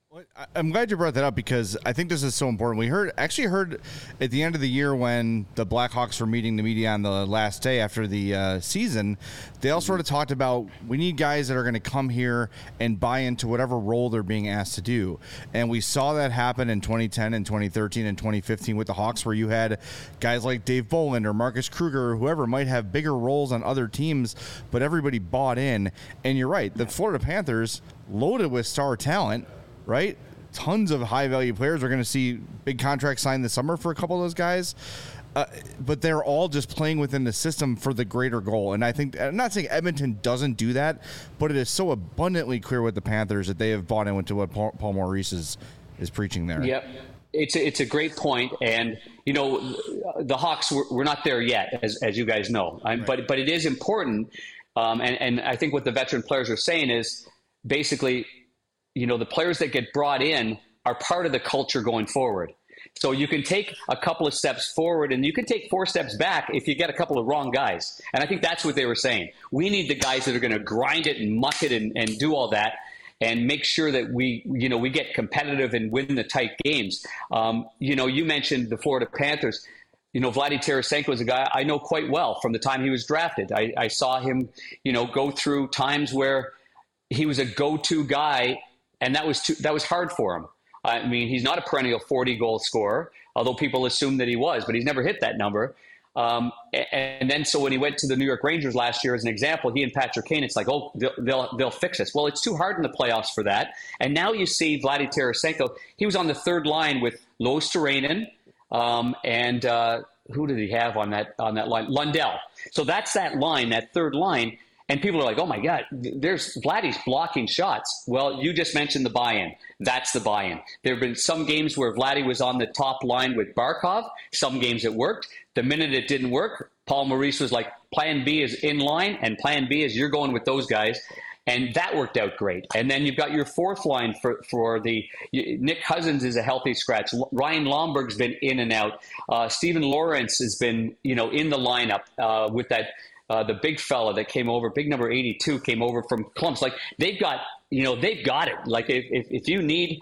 Well, I- I'm glad you brought that up because I think this is so important. We heard actually heard at the end of the year when the Blackhawks were meeting the media on the last day after the uh, season, they all sort of talked about we need guys that are going to come here and buy into whatever role they're being asked to do. And we saw that happen in twenty ten and twenty thirteen and twenty fifteen with the Hawks, where you had guys like Dave Boland or Marcus Kruger or whoever might have bigger roles on other teams, but everybody bought in. And you're right, the Florida Panthers, loaded with star talent, right? Tons of high-value players. We're going to see big contracts signed this summer for a couple of those guys. Uh, but they're all just playing within the system for the greater goal. And I think, I'm not saying Edmonton doesn't do that, but it is so abundantly clear with the Panthers that they have bought into what Paul, Paul Maurice is, is preaching there. Yep. It's a, it's a great point. And, you know, the Hawks, we're, we're not there yet, as, as you guys know. Right. But, but it is important. Um, and, and I think what the veteran players are saying is basically, you know, the players that get brought in are part of the culture going forward. So you can take a couple of steps forward and you can take four steps back if you get a couple of wrong guys. And I think that's what they were saying. We need the guys that are going to grind it and muck it and, and do all that and make sure that we, you know, we get competitive and win the tight games. Um, you know, you mentioned the Florida Panthers. You know, Vladdy Tarasenko is a guy I know quite well from the time he was drafted. I, I saw him, you know, go through times where he was a go-to guy, and that was too, that was hard for him. I mean, he's not a perennial forty-goal scorer, although people assume that he was, but he's never hit that number. Um, and then so when he went to the New York Rangers last year, as an example, he and Patrick Kane, it's like, oh, they'll, they'll, they'll fix us. Well, it's too hard in the playoffs for that. And now you see Vladdy Tarasenko. He was on the third line with Lois Turainen, um, and uh, who did he have on that on that line? Lundell. So that's that line, that third line. And people are like, oh, my God, there's Vladdy's blocking shots. Well, you just mentioned the buy-in. That's the buy-in. There have been some games where Vladdy was on the top line with Barkov. Some games it worked. The minute it didn't work, Paul Maurice was like, plan B is in line, and plan B is you're going with those guys. And that worked out great. And then you've got your fourth line for, for the – Nick Cousins is a healthy scratch. Ryan Lomberg's been in and out. Uh, Stephen Lawrence has been, you know, in the lineup uh, with that – Uh, the big fella that came over, big number eighty-two, came over from Columbus. Like, they've got, you know, they've got it. Like, if, if, if you need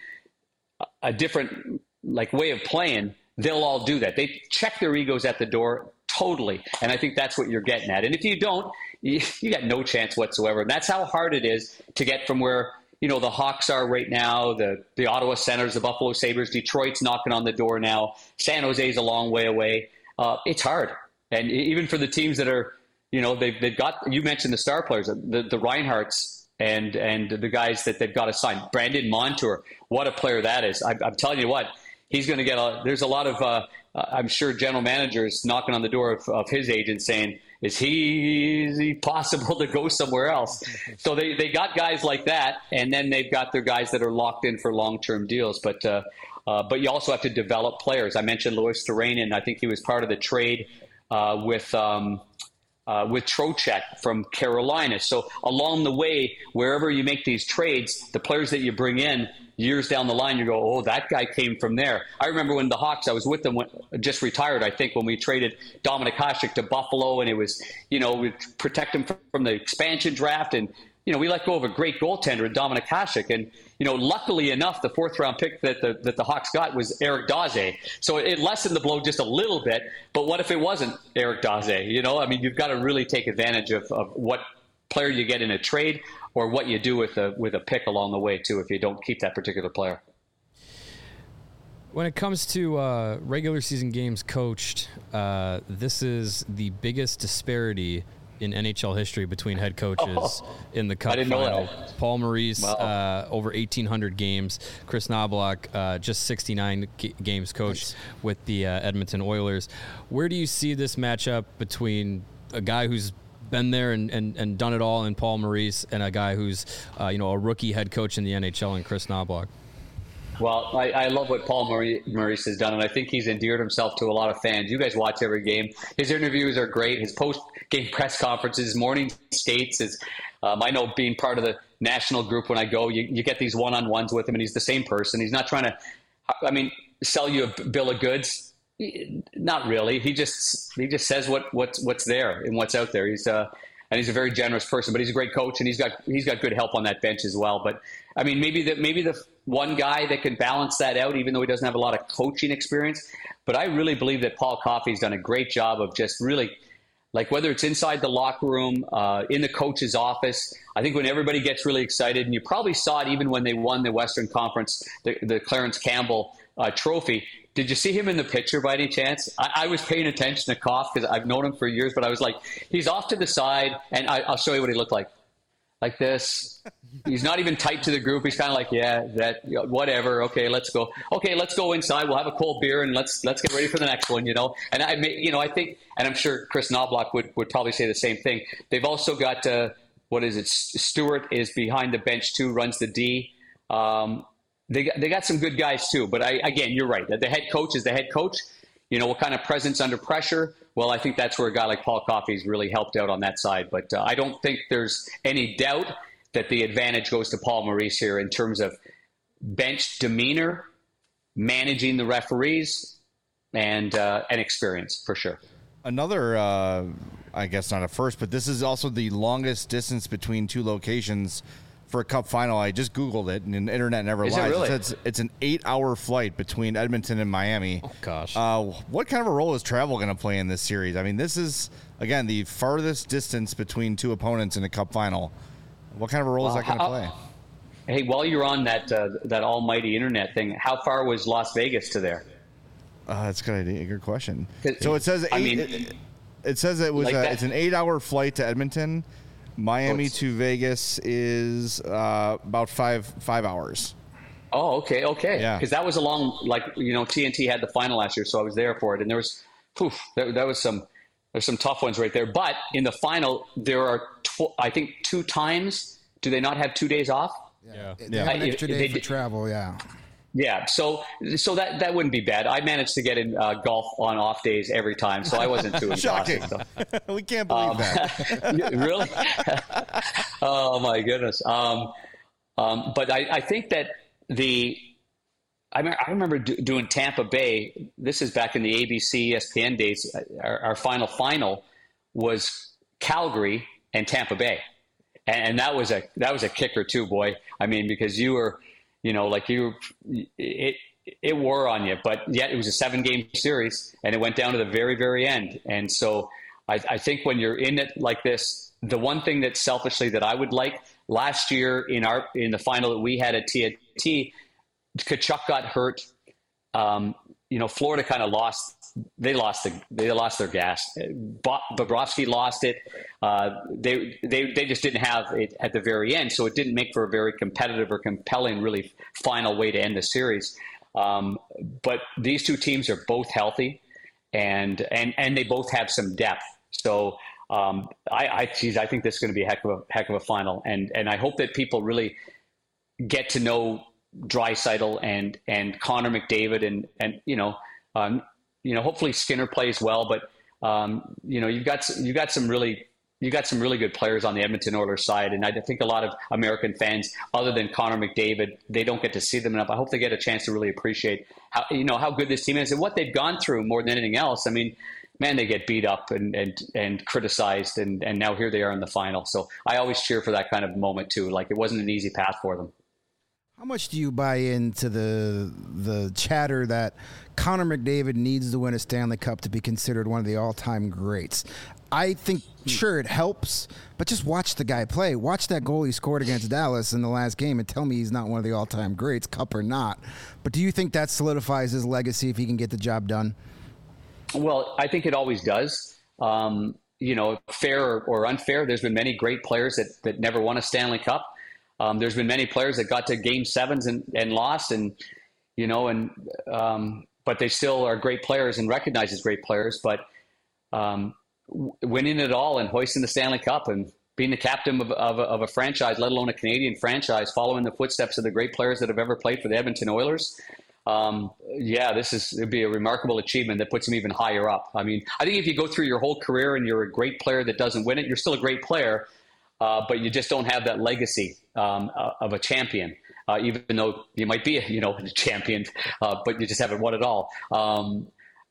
a different, like, way of playing, they'll all do that. They check their egos at the door totally. And I think that's what you're getting at. And if you don't, you, you got no chance whatsoever. And that's how hard it is to get from where, you know, the Hawks are right now, the, the Ottawa Senators, the Buffalo Sabres, Detroit's knocking on the door now. San Jose's a long way away. Uh, it's hard. And even for the teams that are, you know, they've, they've got, you mentioned the star players, the, the Reinhardts and and the guys that they've got to sign. Brandon Montour, what a player that is. I, I'm telling you what, he's going to get a, there's a lot of, uh, I'm sure, general managers knocking on the door of, of his agent saying, is he, is he possible to go somewhere else? So they, they got guys like that, and then they've got their guys that are locked in for long-term deals. But uh, uh, but you also have to develop players. I mentioned Lois Turainen. I think he was part of the trade uh, with um, – Uh, with Trocheck from Carolina. So along the way, wherever you make these trades, the players that you bring in years down the line, you go, oh, that guy came from there. I remember when the Hawks, I was with them, when, just retired, I think, when we traded Dominik Hasek to Buffalo, and it was, you know, we protect him from, from the expansion draft, and, you know, we let go of a great goaltender in Dominik Hasek. And, you know, luckily enough, the fourth round pick that the, that the Hawks got was Eric Daze. So it lessened the blow just a little bit. But what if it wasn't Eric Daze? You know, I mean, you've got to really take advantage of, of what player you get in a trade or what you do with a, with a pick along the way, too, if you don't keep that particular player. When it comes to uh, regular season games coached, uh, this is the biggest disparity in N H L history between head coaches oh, in the Cup I didn't final. know that. Paul Maurice, wow. uh, over eighteen hundred games. Chris Knoblauch, uh, just sixty-nine g- games coached nice. with the uh, Edmonton Oilers. Where do you see this matchup between a guy who's been there and, and, and done it all in Paul Maurice and a guy who's, uh, you know, a rookie head coach in the N H L in Chris Knoblauch? Well, I, I love what Paul Maurice has done, and I think he's endeared himself to a lot of fans. You guys watch every game. His interviews are great. His post-game press conferences, morning skates. Is, um, I know being part of the national group when I go, you, you get these one-on-ones with him, and he's the same person. He's not trying to, I mean, sell you a bill of goods. Not really. He just he just says what what's what's there and what's out there. He's uh, and he's a very generous person. But he's a great coach, and he's got he's got good help on that bench as well. But I mean, maybe the maybe the one guy that can balance that out, even though he doesn't have a lot of coaching experience. But I really believe that Paul Coffey's done a great job of just really. Like whether it's inside the locker room, uh, in the coach's office, I think when everybody gets really excited, and you probably saw it even when they won the Western Conference, the, the Clarence Campbell uh, trophy. Did you see him in the picture by any chance? I, I was paying attention to Koff because I've known him for years, but I was like, he's off to the side, and I, I'll show you what he looked like. Like this. He's not even tight to the group. He's kind of like, yeah, that, whatever. Okay, let's go. Okay, let's go inside. We'll have a cold beer and let's let's get ready for the next one. You know, and I, you know, I think, and I'm sure Chris Knobloch would, would probably say the same thing. They've also got uh, what is it? Stewart is behind the bench too, runs the D. Um, they got, they got some good guys too. But I, again, you're right. The head coach is the head coach. You know, what kind of presence under pressure? Well, I think that's where a guy like Paul Coffey's really helped out on that side. But uh, I don't think there's any doubt that the advantage goes to Paul Maurice here in terms of bench demeanor, managing the referees, and uh, and experience for sure. Another, uh, I guess not a first, but this is also the longest distance between two locations for a Cup final. I just Googled it, and the internet never Is lies. it really? It says it's an eight-hour flight between Edmonton and Miami. Oh, gosh. Uh, what kind of a role is travel going to play in this series? I mean, this is, again, the farthest distance between two opponents in a Cup final. What kind of a role Well, is that going to how- play? Hey, while you're on that uh, that almighty internet thing, how far was Las Vegas to there? Uh, that's a good idea. Good question. 'Cause, So it says eight, I mean, it, it says it was like a, that- it's an eight-hour flight to Edmonton. Miami Oh, it's- to Vegas is uh, about five five hours. Oh, okay, okay. Yeah. Because that was along, like, you know, T N T had the final last year, so I was there for it. And there was, poof, there, that was some, there's some tough ones right there. But in the final, there are, tw- I think, two times. Do they not have two days off? Yeah. They Yeah. have an I- extra they day for did- travel, yeah. Yeah. So, so that, that wouldn't be bad. I managed to get in uh, golf on off days every time, so I wasn't too Shocking. exhausted. So. We can't believe Um, that. Really? Oh my goodness. Um, um, but I, I think that the I, me- I remember do, doing Tampa Bay. This is back in the A B C E S P N days. Our, our final final was Calgary and Tampa Bay, and, and that was a that was a kicker too, boy. I mean, because you were, you know, like you, it it wore on you, but yet it was a seven game series, and it went down to the very very end, and so. I, I think when you're in it like this, the one thing that selfishly that I would like last year in our in the final that we had at T N T, Tkachuk got hurt. Um, you know, Florida kind of lost. They lost the they lost their gas. Bo- Bobrovsky lost it. Uh, they they they just didn't have it at the very end, so it didn't make for a very competitive or compelling, really final way to end the series. Um, but these two teams are both healthy, and and and they both have some depth. So um, I, I, geez, I think this is going to be a heck of a heck of a final, and and I hope that people really get to know Draisaitl and and Connor McDavid, and and you know, um, you know, hopefully Skinner plays well, but um, you know, you've got you've got some really you got some really good players on the Edmonton Oilers side, and I think a lot of American fans, other than Connor McDavid, they don't get to see them enough. I hope they get a chance to really appreciate how you know how good this team is and what they've gone through more than anything else. I mean. Man, they get beat up and, and, and criticized, and, and now here they are in the final. So I always cheer for that kind of moment, too. Like, it wasn't an easy path for them. How much do you buy into the the chatter that Connor McDavid needs to win a Stanley Cup to be considered one of the all-time greats? I think, sure, it helps, but just watch the guy play. Watch that goal he scored against Dallas in the last game and tell me he's not one of the all-time greats, Cup or not. But do you think that solidifies his legacy if he can get the job done? Well, I think it always does. Um, you know, fair or, or unfair, there's been many great players that, that never won a Stanley Cup. Um, there's been many players that got to game sevens and, and lost, and, you know, and um, but they still are great players and recognized as great players. But um, w- winning it all and hoisting the Stanley Cup and being the captain of, of, of a franchise, let alone a Canadian franchise, following the footsteps of the great players that have ever played for the Edmonton Oilers. Um, yeah, this is, it'd be a remarkable achievement that puts him even higher up. I mean, I think if you go through your whole career and you're a great player that doesn't win it, you're still a great player, uh, but you just don't have that legacy, um, uh, of a champion, uh, even though you might be, a, you know, a champion, uh, but you just haven't won it all. Um,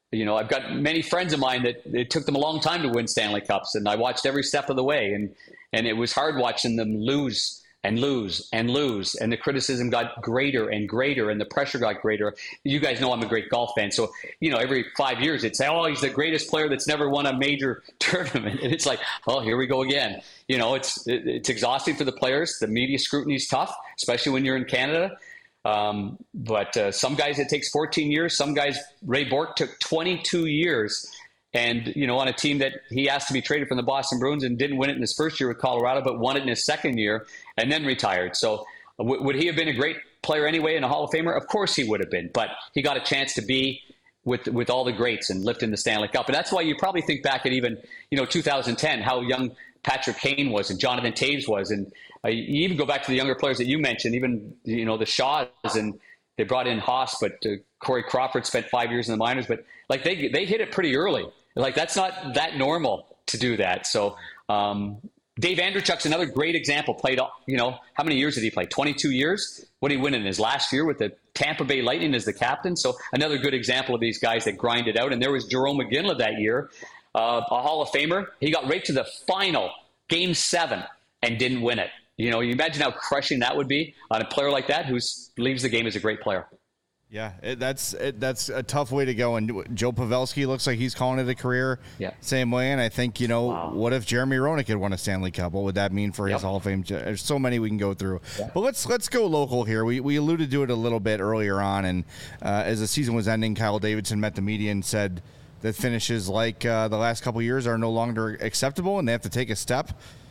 you know, I've got many friends of mine that it took them a long time to win Stanley Cups, and I watched every step of the way, and and it was hard watching them lose and lose and lose, and the criticism got greater and greater, and the pressure got greater. You guys know I'm a great golf fan, so you know every five years it's oh he's the greatest player that's never won a major tournament, and it's like oh here we go again. You know it's it, it's exhausting for the players. The media scrutiny is tough, especially when you're in Canada. Um, but uh, some guys it takes fourteen years. Some guys, Ray Bourque took twenty-two years. And, you know, on a team that he asked to be traded from the Boston Bruins and didn't win it in his first year with Colorado, but won it in his second year and then retired. So w- would he have been a great player anyway and a Hall of Famer? Of course he would have been. But he got a chance to be with with all the greats and lifting the Stanley Cup. And that's why you probably think back at even, you know, two thousand ten, how young Patrick Kane was and Jonathan Toews was. And uh, you even go back to the younger players that you mentioned, even, you know, the Shaws, and they brought in Haas, but uh, Corey Crawford spent five years in the minors. But, like, they they hit it pretty early. Like, that's not that normal to do that. So um, Dave Andrechuk's another great example. Played, you know, how many years did he play? twenty-two years? What did he win in his last year with the Tampa Bay Lightning as the captain? So another good example of these guys that grinded out. And there was Jerome McGinley that year, uh, a Hall of Famer. He got right to the final, game seven, and didn't win it. You know, you imagine how crushing that would be on a player like that who leaves the game as a great player. Yeah, it, that's it, that's a tough way to go. And Joe Pavelski looks like he's calling it a career yeah. same way. And I think, you know, wow. what if Jeremy Roenick had won a Stanley Cup? What would that mean for yep. his Hall of Fame? There's so many we can go through. Yeah. But let's let's go local here. We we alluded to it a little bit earlier on. And uh, as the season was ending, Kyle Davidson met the media and said that finishes like uh, the last couple of years are no longer acceptable and they have to take a step.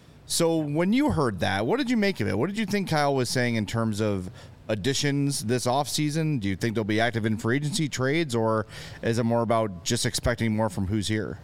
So when you heard that, what did you make of it? What did you think Kyle was saying in terms of additions this offseason? Do you think they'll be active in free agency trades, or is it more about just expecting more from who's here?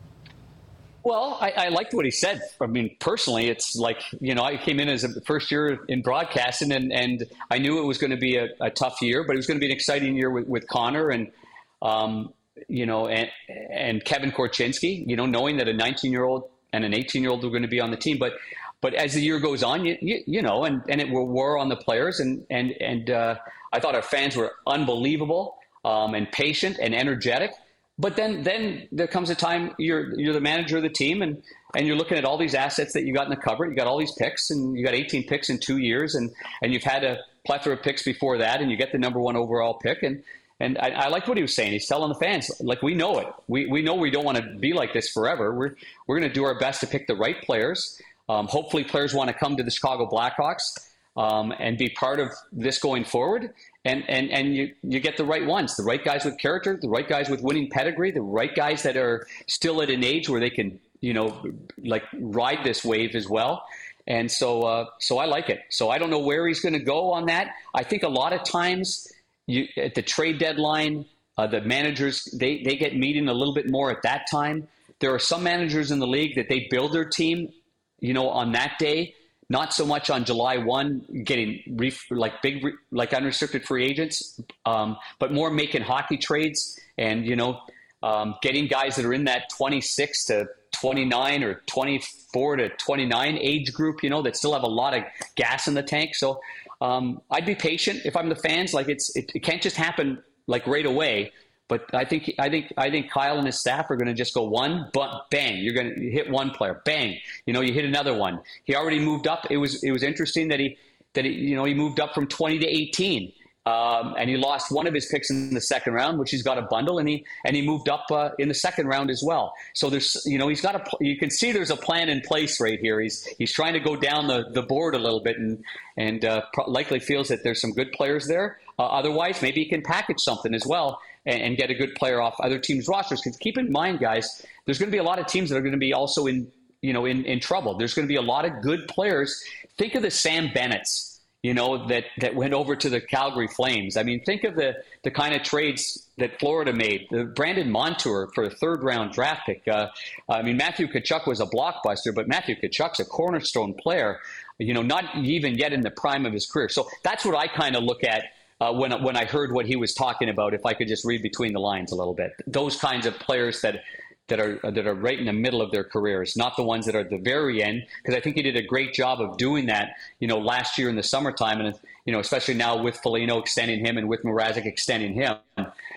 Well, I, I liked what he said. I mean, personally, it's like, you know, I came in as a first year in broadcasting, and, and I knew it was going to be a, a tough year, but it was going to be an exciting year with, with Connor and, um, you know, and, and Kevin Korchinski, you know, knowing that a nineteen-year-old and an eighteen-year-old were going to be on the team. But But as the year goes on, you, you, you know, and, and it wore on the players. And, and, and uh, I thought our fans were unbelievable um, and patient and energetic. But then then there comes a time you're you're the manager of the team, and, and you're looking at all these assets that you got in the cupboard. You got all these picks, and you got eighteen picks in two years. And, and you've had a plethora of picks before that, and you get the number one overall pick. And And I, I like what he was saying. He's telling the fans, like, we know it. We we know we don't want to be like this forever. We're, we're going to do our best to pick the right players. Um, hopefully players want to come to the Chicago Blackhawks um, and be part of this going forward. And and, and you, you get the right ones, the right guys with character, the right guys with winning pedigree, the right guys that are still at an age where they can, you know, like ride this wave as well. And so uh, so I like it. So I don't know where he's going to go on that. I think a lot of times you, at the trade deadline, uh, the managers, they, they get meeting a little bit more at that time. There are some managers in the league that they build their team, you know, on that day, not so much on July first, getting ref- like big, re- like unrestricted free agents, um, but more making hockey trades and, you know, um, getting guys that are in that twenty-six to twenty-nine or twenty-four to twenty-nine age group, you know, that still have a lot of gas in the tank. So um, I'd be patient if I'm the fans. Like it's, it, it can't just happen like right away. But I think I think I think Kyle and his staff are going to just go one, but bang, you're going to hit one player, bang, you know, you hit another one. He already moved up. It was it was interesting that he that he, you know he moved up from twenty to eighteen, um, and he lost one of his picks in the second round, which he's got a bundle, and he and he moved up uh, in the second round as well. So there's you know he's got a you can see there's a plan in place right here. He's he's trying to go down the, the board a little bit, and and uh, likely feels that there's some good players there. Uh, otherwise, maybe he can package something as well and, and get a good player off other teams' rosters. Because keep in mind, guys, there's going to be a lot of teams that are going to be also in, you know, in, in trouble. There's going to be a lot of good players. Think of the Sam Bennetts, you know, that, that went over to the Calgary Flames. I mean, think of the, the kind of trades that Florida made. The Brandon Montour for a third-round draft pick. Uh, I mean, Matthew Tkachuk was a blockbuster, but Matthew Tkachuk's a cornerstone player, you know, not even yet in the prime of his career. So that's what I kind of look at. Uh, when when I heard what he was talking about, if I could just read between the lines a little bit, those kinds of players that that are that are right in the middle of their careers, not the ones that are at the very end. Because I think he did a great job of doing that, you know, last year in the summertime, and you know, especially now with Foligno extending him and with Mrazek extending him.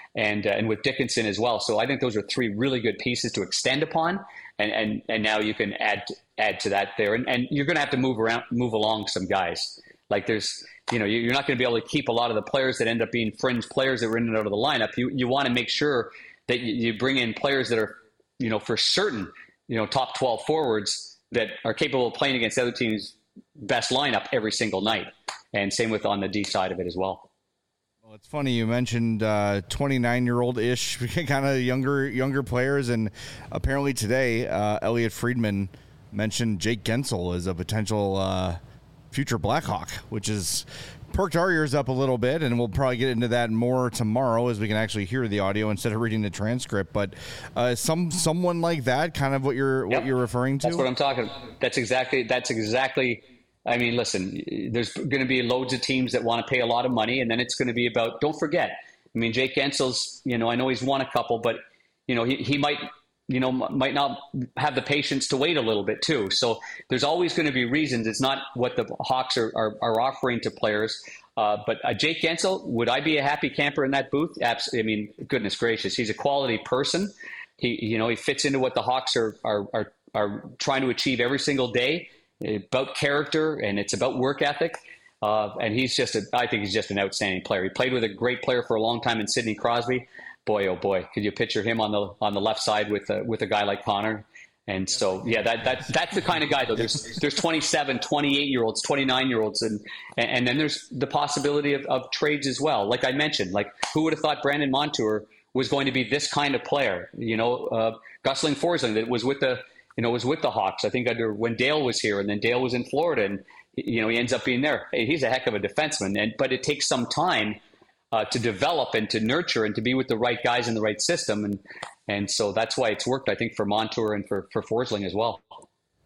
and uh, and with Dickinson as well. So I think those are three really good pieces to extend upon, and and, and now you can add add to that there, and, and you're going to have to move around, move along some guys. Like there's, you know, you're not going to be able to keep a lot of the players that end up being fringe players that were in and out of the lineup. You you want to make sure that you bring in players that are, you know, for certain, you know, top twelve forwards that are capable of playing against other teams' best lineup every single night. And same with on the D side of it as well. Well, it's funny you mentioned uh, twenty-nine-year-old-ish kind of younger younger players, and apparently today uh, Elliot Friedman mentioned Jake Gensel as a potential uh, future Blackhawk, which is perked our ears up a little bit, and we'll probably get into that more tomorrow as we can actually hear the audio instead of reading the transcript. But uh, some someone like that, kind of what you're Yep. what you're referring to. That's what I'm talking about. That's exactly. That's exactly. I mean, listen. There's going to be loads of teams that want to pay a lot of money, and then it's going to be about. Don't forget. I mean, Jake Gensel's. You know, I know he's won a couple, but you know, he he might. You know, might not have the patience to wait a little bit too. So there's always going to be reasons. It's not what the Hawks are, are, are offering to players. Uh, but uh, Jake Guentzel, would I be a happy camper in that booth? Absolutely. I mean, goodness gracious, he's a quality person. He, you know, he fits into what the Hawks are are are, are trying to achieve every single day. About character, and it's about work ethic. Uh, and he's just, a, I think he's just an outstanding player. He played with a great player for a long time in Sidney Crosby. Boy, oh boy, could you picture him on the on the left side with a, with a guy like Connor? And so, yeah, that that that's the kind of guy though. There's there's twenty-seven, twenty-eight year olds, twenty-nine year olds, and and then there's the possibility of, of trades as well. Like I mentioned, like who would have thought Brandon Montour was going to be this kind of player? You know, uh, Gosling Forsling that was with the you know was with the Hawks. I think under when Dale was here, and then Dale was in Florida, and you know he ends up being there. Hey, he's a heck of a defenseman, and but it takes some time. Uh, to develop and to nurture and to be with the right guys in the right system. And and so that's why it's worked, I think, for Montour and for, for Forsling as well. All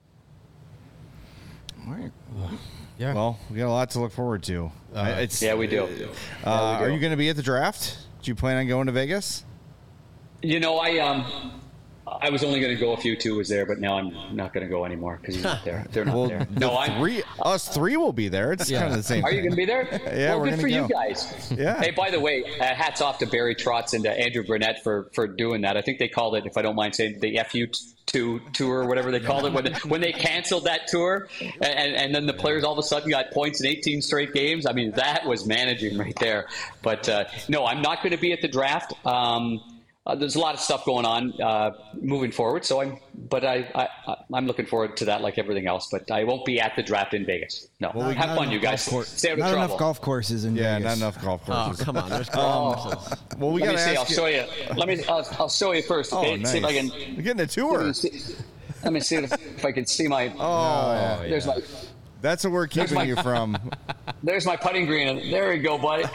right. Yeah. Well, we got a lot to look forward to. Uh, it's, Yeah, we do. Uh, Yeah, we do. Are you going to be at the draft? Do you plan on going to Vegas? You know, I um, I was only going to go if you two was there, but now I'm not going to go anymore because he's not there. They're not Well, there. the No, I'm. three, us three will be there. It's kind of the same Are you thing. going to be there? Yeah, well, we're good gonna for you go. guys. Yeah. Hey, by the way, uh, hats off to Barry Trotz and uh, Andrew Burnett for, for doing that. I think they called it, if I don't mind saying, the F U two tour or whatever they called it when they, when they canceled that tour, and, and then the players all of a sudden got points in eighteen straight games. I mean, that was managing right there. But uh, no, I'm not going to be at the draft. Um, Uh, there's a lot of stuff going on uh, moving forward, so I'm. But I, I, I'm looking forward to that, like everything else. But I won't be at the draft in Vegas. No, Well, we- have Not fun, you enough guys. golf cour- Stay out of Not trouble. enough golf courses in Yeah, Vegas. not enough golf Oh, courses. come on. There's golf. Well, we Let got me to see. ask I'll you. show you. Let me. I'll, I'll show you first. Oh, Okay. nice. See if I can. We're getting a Let tour. me see, let me see if, if I can see my. Oh, there's my. that's what we're keeping my- you from. There's my putting green. There we go, buddy.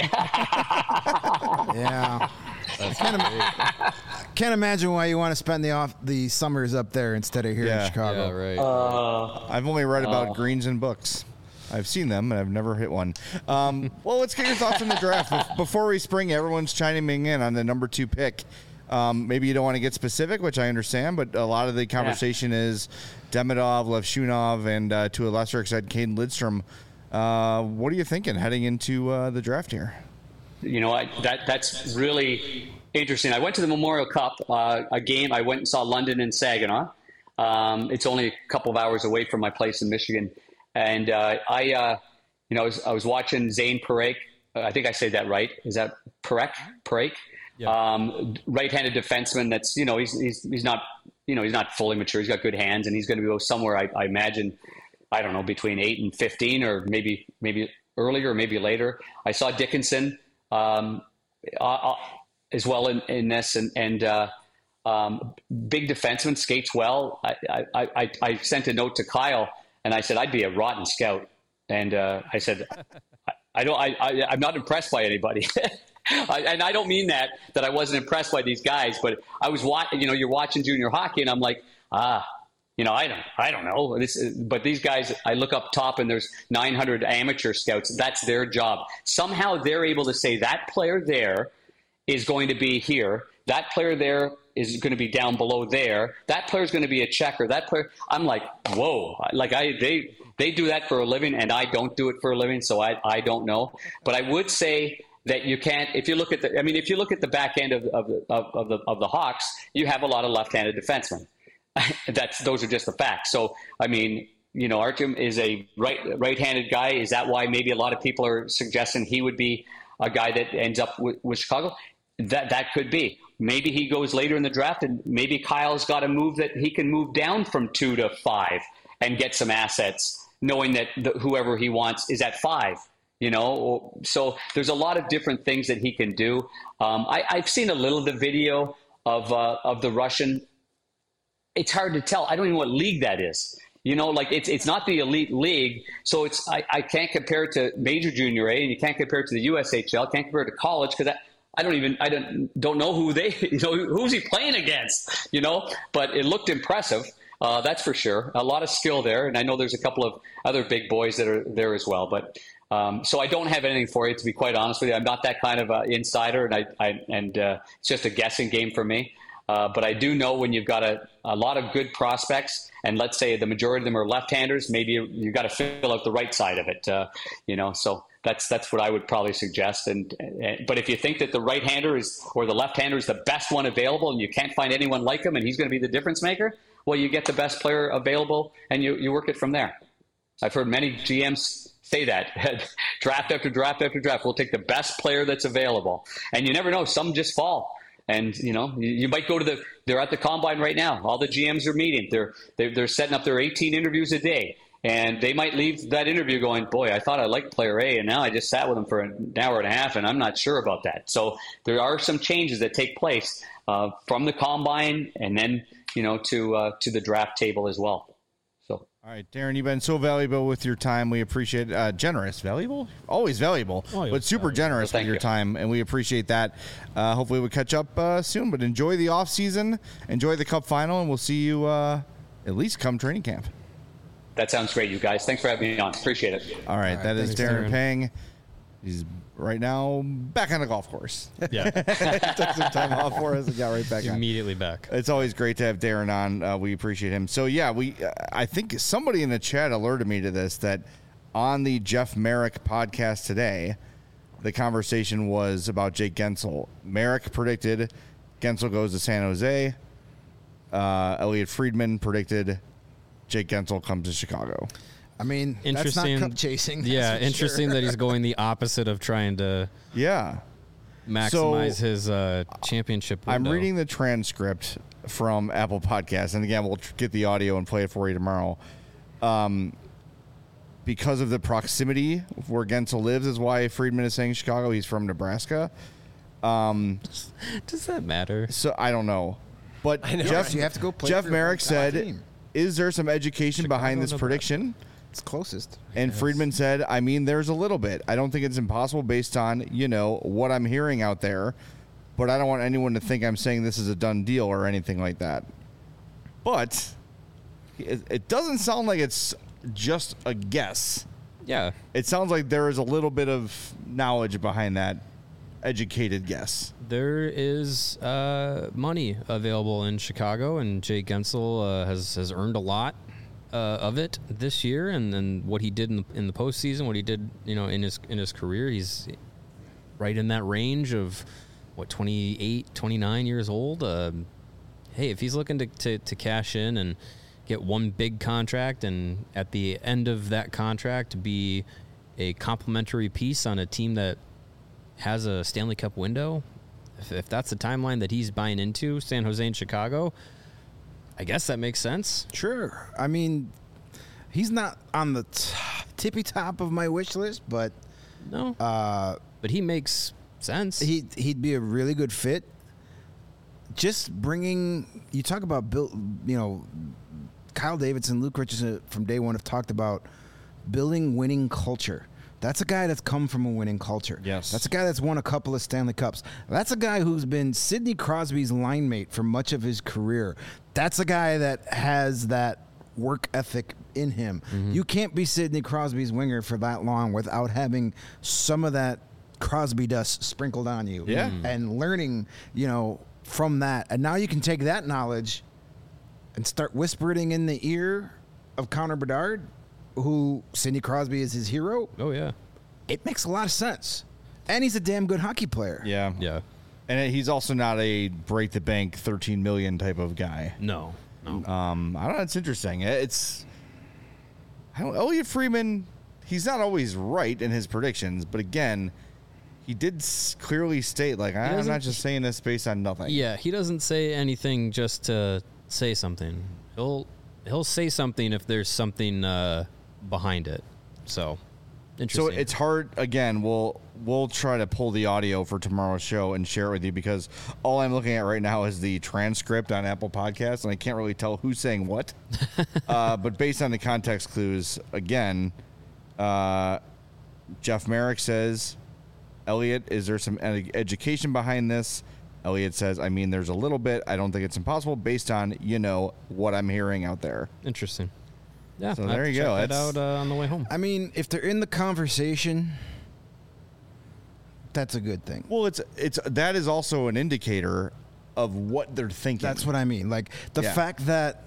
Yeah. Can't, im- can't imagine why you want to spend the off the summers up there instead of here Yeah. in Chicago. Yeah, right. Uh, I've only read about greens in books. I've seen them, and I've never hit one. Um, well, let's get your thoughts on the draft. Bef- Before we spring, everyone's chiming in on the number two pick. Um, maybe you don't want to get specific, which I understand, but a lot of the conversation is Demidov, Levshunov, and uh, to a lesser extent, Caden Lidstrom. Uh, what are you thinking heading into uh, the draft here? You know, I, that that's really interesting. I went to the Memorial Cup, uh, a game. I went and saw London and Saginaw. Um, it's only a couple of hours away from my place in Michigan, and uh, I, uh, you know, I was, I was watching Zane Parekh. I think I say that right. Is that Parekh? Parekh? Um, right-handed defenseman. That's you know he's he's he's not you know he's not fully mature. He's got good hands, and he's going to go somewhere. I, I imagine. I don't know, between eight and fifteen, or maybe maybe earlier, or maybe later. I saw Dickinson. Um, uh, as well in, in this, and, and uh, um, big defenseman, skates well. I, I, I, I sent a note to Kyle, and I said I'd be a rotten scout, and uh, I said I, I don't, I, I, I'm not impressed by anybody, I, and I don't mean that that I wasn't impressed by these guys, but I was watching. You know, you're watching junior hockey, and I'm like, ah. You know, I don't, I don't know. This, but these guys, I look up top, and there's nine hundred amateur scouts. That's their job. Somehow they're able to say that player there is going to be here. That player there is going to be down below there. That player is going to be a checker. That player, I'm like, whoa! Like I, they, they do that for a living, and I don't do it for a living, so I, I don't know. But I would say, that you can't. If you look at the, I mean, if you look at the back end of of the of, of the of the Hawks, you have a lot of left-handed defensemen. That's those are just the facts. So I mean, you know, Artem is a right right-handed guy. Is that why maybe a lot of people are suggesting he would be a guy that ends up with, with Chicago? That that could be. Maybe he goes later in the draft, and maybe Kyle's got a move that he can move down from two to five and get some assets, knowing that the, whoever he wants is at five. You know, so there's a lot of different things that he can do. Um, I, I've seen a little of the video of uh, of the Russian. It's hard to tell. I don't even know what league that is. You know, like it's it's not the elite league, so it's I, I can't compare it to Major Junior A, and you can't compare it to the U S H L. Can't compare it to college because I, I don't even I don't don't know who they you know who's he playing against. You know, but it looked impressive. Uh, that's for sure. A lot of skill there, and I know there's a couple of other big boys that are there as well. But um, so I don't have anything for you, to be quite honest with you. I'm not that kind of uh, insider, and I, I and uh, it's just a guessing game for me. Uh, but I do know when you've got a, a lot of good prospects, and let's say the majority of them are left-handers, maybe you, you've got to fill out the right side of it. Uh, you know, so that's that's what I would probably suggest. And, and but if you think that the right-hander is or the left-hander is the best one available, and you can't find anyone like him, and he's going to be the difference maker, well, you get the best player available, and you you work it from there. I've heard many G Ms say that draft after draft after draft. We'll take the best player that's available, and you never know. Some just fall. And, you know, you, you might go to the, they're at the combine right now. All the G Ms are meeting. They're, they're, they're setting up their eighteen interviews a day. And they might leave that interview going, boy, I thought I liked player A, and now I just sat with him for an hour and a half, and I'm not sure about that. So there are some changes that take place uh, from the combine and then, you know, to uh, to the draft table as well. So. All right, Darren, you've been so valuable with your time. We appreciate it. Uh, generous, valuable, always valuable, Always but super valuable. generous Well, with your you. time, and we appreciate that. Uh, hopefully, we'll catch up uh, soon. But enjoy the off season, enjoy the Cup final, and we'll see you uh, at least come training camp. That sounds great, you guys. Thanks for having me on. Appreciate it. All right, All right, that is thanks, Darren Darren. Pang. He's right now back on the golf course. Yeah. Took some time off for us and got right back on. Immediately back. It's always great to have Darren on. Uh, we appreciate him. So yeah, we. Uh, I think somebody in the chat alerted me to this, that on the Jeff Merrick podcast today, the conversation was about Jake Gensel. Merrick predicted Gensel goes to San Jose. Uh, Elliot Friedman predicted Jake Gensel comes to Chicago. I mean, that's Interesting. not cup chasing. that's Yeah, for interesting sure. that he's going the opposite of trying to Yeah. maximize So, his uh, championship I'm window. reading the transcript from Apple Podcasts, and again, we'll tr- get the audio and play it for you tomorrow. Um, because of the proximity of where Gensel lives is why Friedman is saying Chicago. He's from Nebraska. Does that matter? So I don't know. But know, Jeff, right? You have to go play Jeff for your Merrick hometown said, team. is there some education behind this Nebraska. prediction? It's closest. And Friedman said, I mean, there's a little bit. I don't think it's impossible based on, you know, what I'm hearing out there. But I don't want anyone to think I'm saying this is a done deal or anything like that. But it, it doesn't sound like it's just a guess. Yeah. It sounds like there is a little bit of knowledge behind that educated guess. There is uh, money available in Chicago, and Jake Gensel uh, has has earned a lot uh, of it this year. And then what he did in the, in the postseason, what he did, you know, in his in his career, he's right in that range of what twenty-eight, twenty-nine years old. Uh, hey, if he's looking to, to to cash in and get one big contract, and at the end of that contract be a complimentary piece on a team that has a Stanley Cup window, if, if that's the timeline that he's buying into, San Jose and Chicago, I guess that makes sense. Sure. I mean, he's not on the t- tippy top of my wish list, but No, uh, but he makes sense. he he'd be a really good fit. Just bringing you talk about Bill, you know, Kyle Davidson, Luke Richardson from day one have talked about building winning culture. That's a guy that's come from a winning culture. Yes. That's a guy that's won a couple of Stanley Cups. That's a guy who's been Sidney Crosby's line mate for much of his career. That's a guy that has that work ethic in him. Mm-hmm. You can't be Sidney Crosby's winger for that long without having some of that Crosby dust sprinkled on you. Yeah. Mm. And learning, you know, from that. And now you can take that knowledge and start whispering in the ear of Connor Bedard, who Sidney Crosby is his hero. oh yeah, It makes a lot of sense. And he's a damn good hockey player. Yeah. Yeah. And he's also not a break the bank thirteen million type of guy. No. No. Um, I don't know. It's interesting. It's I don't. Elliot Friedman. He's not always right in his predictions, but again, he did s- clearly state like I'm doesn't- not just saying this based on nothing. Yeah, he doesn't say anything just to say something. He'll he'll say something if there's something uh, behind it. So, So interesting. it's hard. Again, we'll we'll try to pull the audio for tomorrow's show and share it with you because all I'm looking at right now is the transcript on Apple Podcasts, and I can't really tell who's saying what. uh, but based on the context clues, again, uh, Jeff Merrick says, "Elliot, is there some ed- education behind this?" Elliot says, "I mean, there's a little bit. I don't think it's impossible based on you know what I'm hearing out there." interesting. Yeah, So I'll have there to you check go. That That's- out uh, on the way home. I mean, if they're in the conversation, that's a good thing. Well, it's it's that is also an indicator of what they're thinking. That's what I mean. Like the Yeah. fact that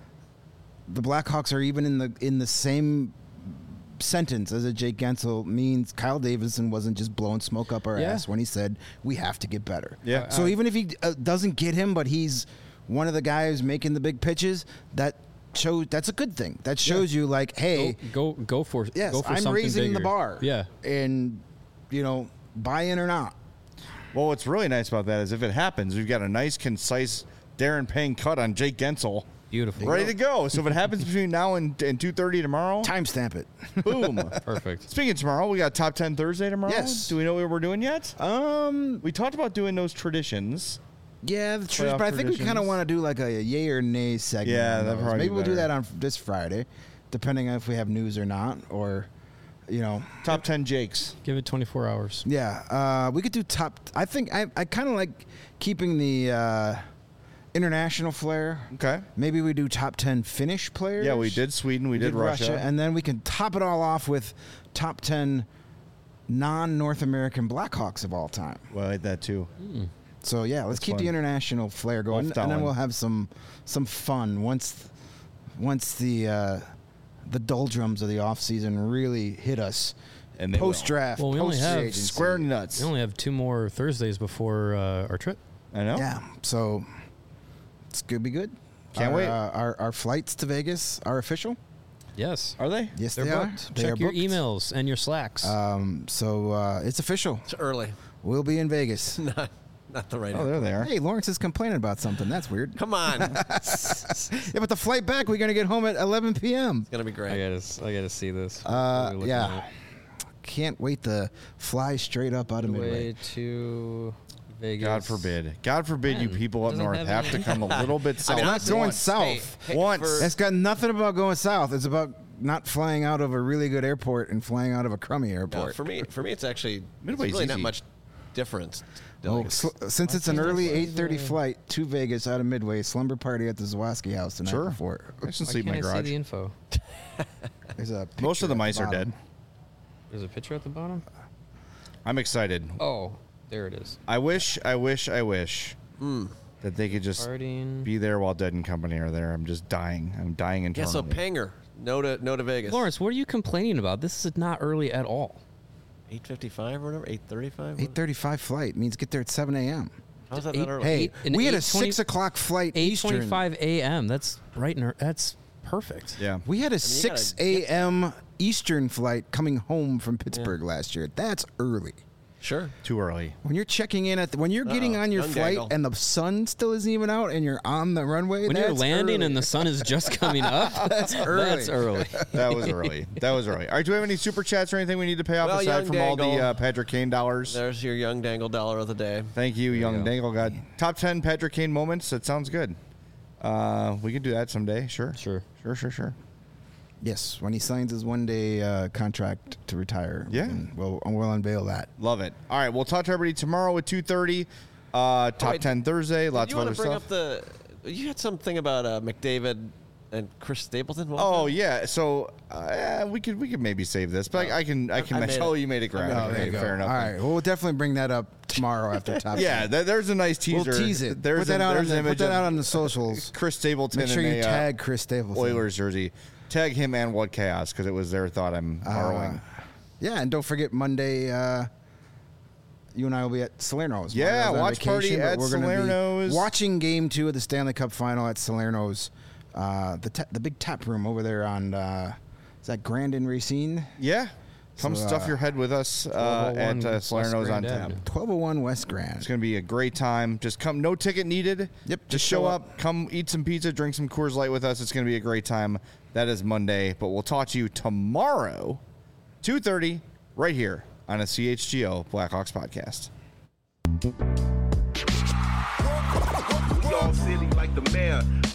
the Blackhawks are even in the in the same sentence as a Jake Gensel means Kyle Davidson wasn't just blowing smoke up our Yeah. ass when he said we have to get better. Yeah. So even if he uh, doesn't get him, but he's one of the guys making the big pitches, that shows that's a good thing. That shows you like, hey, Go go, go for yes, go for I'm something raising the bigger. bar. Yeah. and you know, buy in or not. Well, what's really nice about that is if it happens, we've got a nice, concise Darren Payne cut on Jake Gensel Beautiful. ready to go. So if it happens between now and, and two thirty tomorrow, Timestamp it. boom. Perfect. Speaking of tomorrow, we got Top ten Thursday tomorrow. Yes. Do we know what we're doing yet? Um, We talked about doing those traditions. yeah, the truth, Playoff but I think we kind of traditions. want to do like a yay or nay segment. Yeah, on that'd those. probably Maybe be we'll do better. that on this Friday, depending on if we have news or not, or you know, Top ten Jakes. Give it twenty-four hours. yeah. Uh, we could do top. I think I I kind of like keeping the uh, international flair. Okay. Maybe we do top ten Finnish players. Yeah, we did Sweden. We, did, Russia. and then we can top it all off with top ten non-North American Blackhawks of all time. Well, I like that too. So yeah, let's That's keep fun. the international flair going, Off and then Dallin. we'll have some some fun once once the uh, the doldrums of the off season really hit us. And they will. Post draft, Well, we only post have free agency. Square nuts. We only have two more Thursdays before uh, our trip. I know. Yeah, so it's gonna be good. Can't our, wait. Uh, our our flights to Vegas are official. Yes. Are they? Yes, They're they booked. are. They Check are your booked. emails and your slacks. Um, so uh, it's official. It's early. We'll be in Vegas. Not, not the right Oh, answer. there they are. Hey, Lawrence is complaining about something. That's weird. Come on. Yeah, but the flight back, we're gonna get home at eleven p.m. Gonna be great. gotta, I gotta see this. Uh, yeah. Can't wait to fly straight up out of Midway. Way to Vegas. God forbid. God forbid you Man, people up doesn't north have have any- to come a little bit south. mean, Not honestly, going once- south. Hey, hey, Once. for- That's got nothing about going south. It's about not flying out of a really good airport and flying out of a crummy no, airport. for me, for me, it's actually Midway's it's really not easy. much difference. Oh, Like, sl- since it's an early eight thirty flight to Vegas out of Midway, slumber party at the Zawaski house the night Sure. before. I can Why sleep in can't my I see garage. the info? There's a Most picture of the at mice are bottom. dead. There's a picture at the bottom. I'm excited. Oh, there it is. I wish, I wish, I wish that they could just Starting. be there while Dead and Company are there. I'm just dying. I'm dying yeah, internally. so Panger, no to no to Vegas. Lawrence, what are you complaining about? This is not early at all. eight fifty-five or whatever, eight thirty-five. eight thirty-five flight means get there at seven a.m. How's that eight- not early? Hey, Eight- an we had a eight twenty six o'clock flight eight Eastern. twenty-five a.m. That's right. In our, that's perfect. Yeah. We had a you gotta six get- a.m. Eastern flight coming home from Pittsburgh last year. That's early. Sure. Too early. When you're checking in at the, when you're getting Uh-oh. on your Young flight Dangle. and the sun still isn't even out and you're on the runway, When that's you're landing early. and the sun is just coming up, That's early. That's early. That was early. That was early. All right. Do we have any super chats or anything we need to pay off Well, aside Young from all the Dangle. uh, Patrick Kane dollars? There's your young dangle dollar of the day. Thank you, Young go. Dangle God. Top ten Patrick Kane moments. That sounds good. Uh, we could do that someday. Sure. Sure. Sure. Sure. Sure. Yes, when he signs his one day uh, contract to retire. Yeah. and we'll we'll unveil that. Love it. All right. We'll talk to everybody tomorrow at two thirty. Uh, top wait. ten Thursday. Lots you of want other to bring stuff. up the? You had something about uh, McDavid and Chris Stapleton. What was Oh that? yeah, so uh, we could we could maybe save this, but I, I can I can. I made oh, it. you made it graphic. I made it. Okay, There you fair All enough. right, well, we'll definitely bring that up tomorrow after top. Yeah, ten. th- there's a nice teaser. we'll tease it. There's put that a, out on there's the, an put image that of out on the socials. Chris Stapleton Make sure in you a tag Chris Stapleton. uh, Oilers jersey. Tag him and What Chaos because it was their thought I'm borrowing. Uh, yeah, and don't forget Monday. Uh, you and I will be at Salerno's. Yeah, Mario's on watch party vacation, but at we're gonna be Salerno's. watching Game Two of the Stanley Cup Final at Salerno's, uh, the ta- the big tap room over there on uh, is that Grand and Racine? Yeah. Come So, stuff uh, your head with us uh, twelve oh one at uh, West Salerno's on Grand tap. Avenue. twelve oh one West Grand. It's going to be a great time. Just come. No ticket needed. Yep, Just just show show up. Come eat some pizza. Drink some Coors Light with us. It's going to be a great time. That is Monday. But we'll talk to you tomorrow, two thirty, right here on a C H G O Blackhawks podcast. We all silly like the mayor.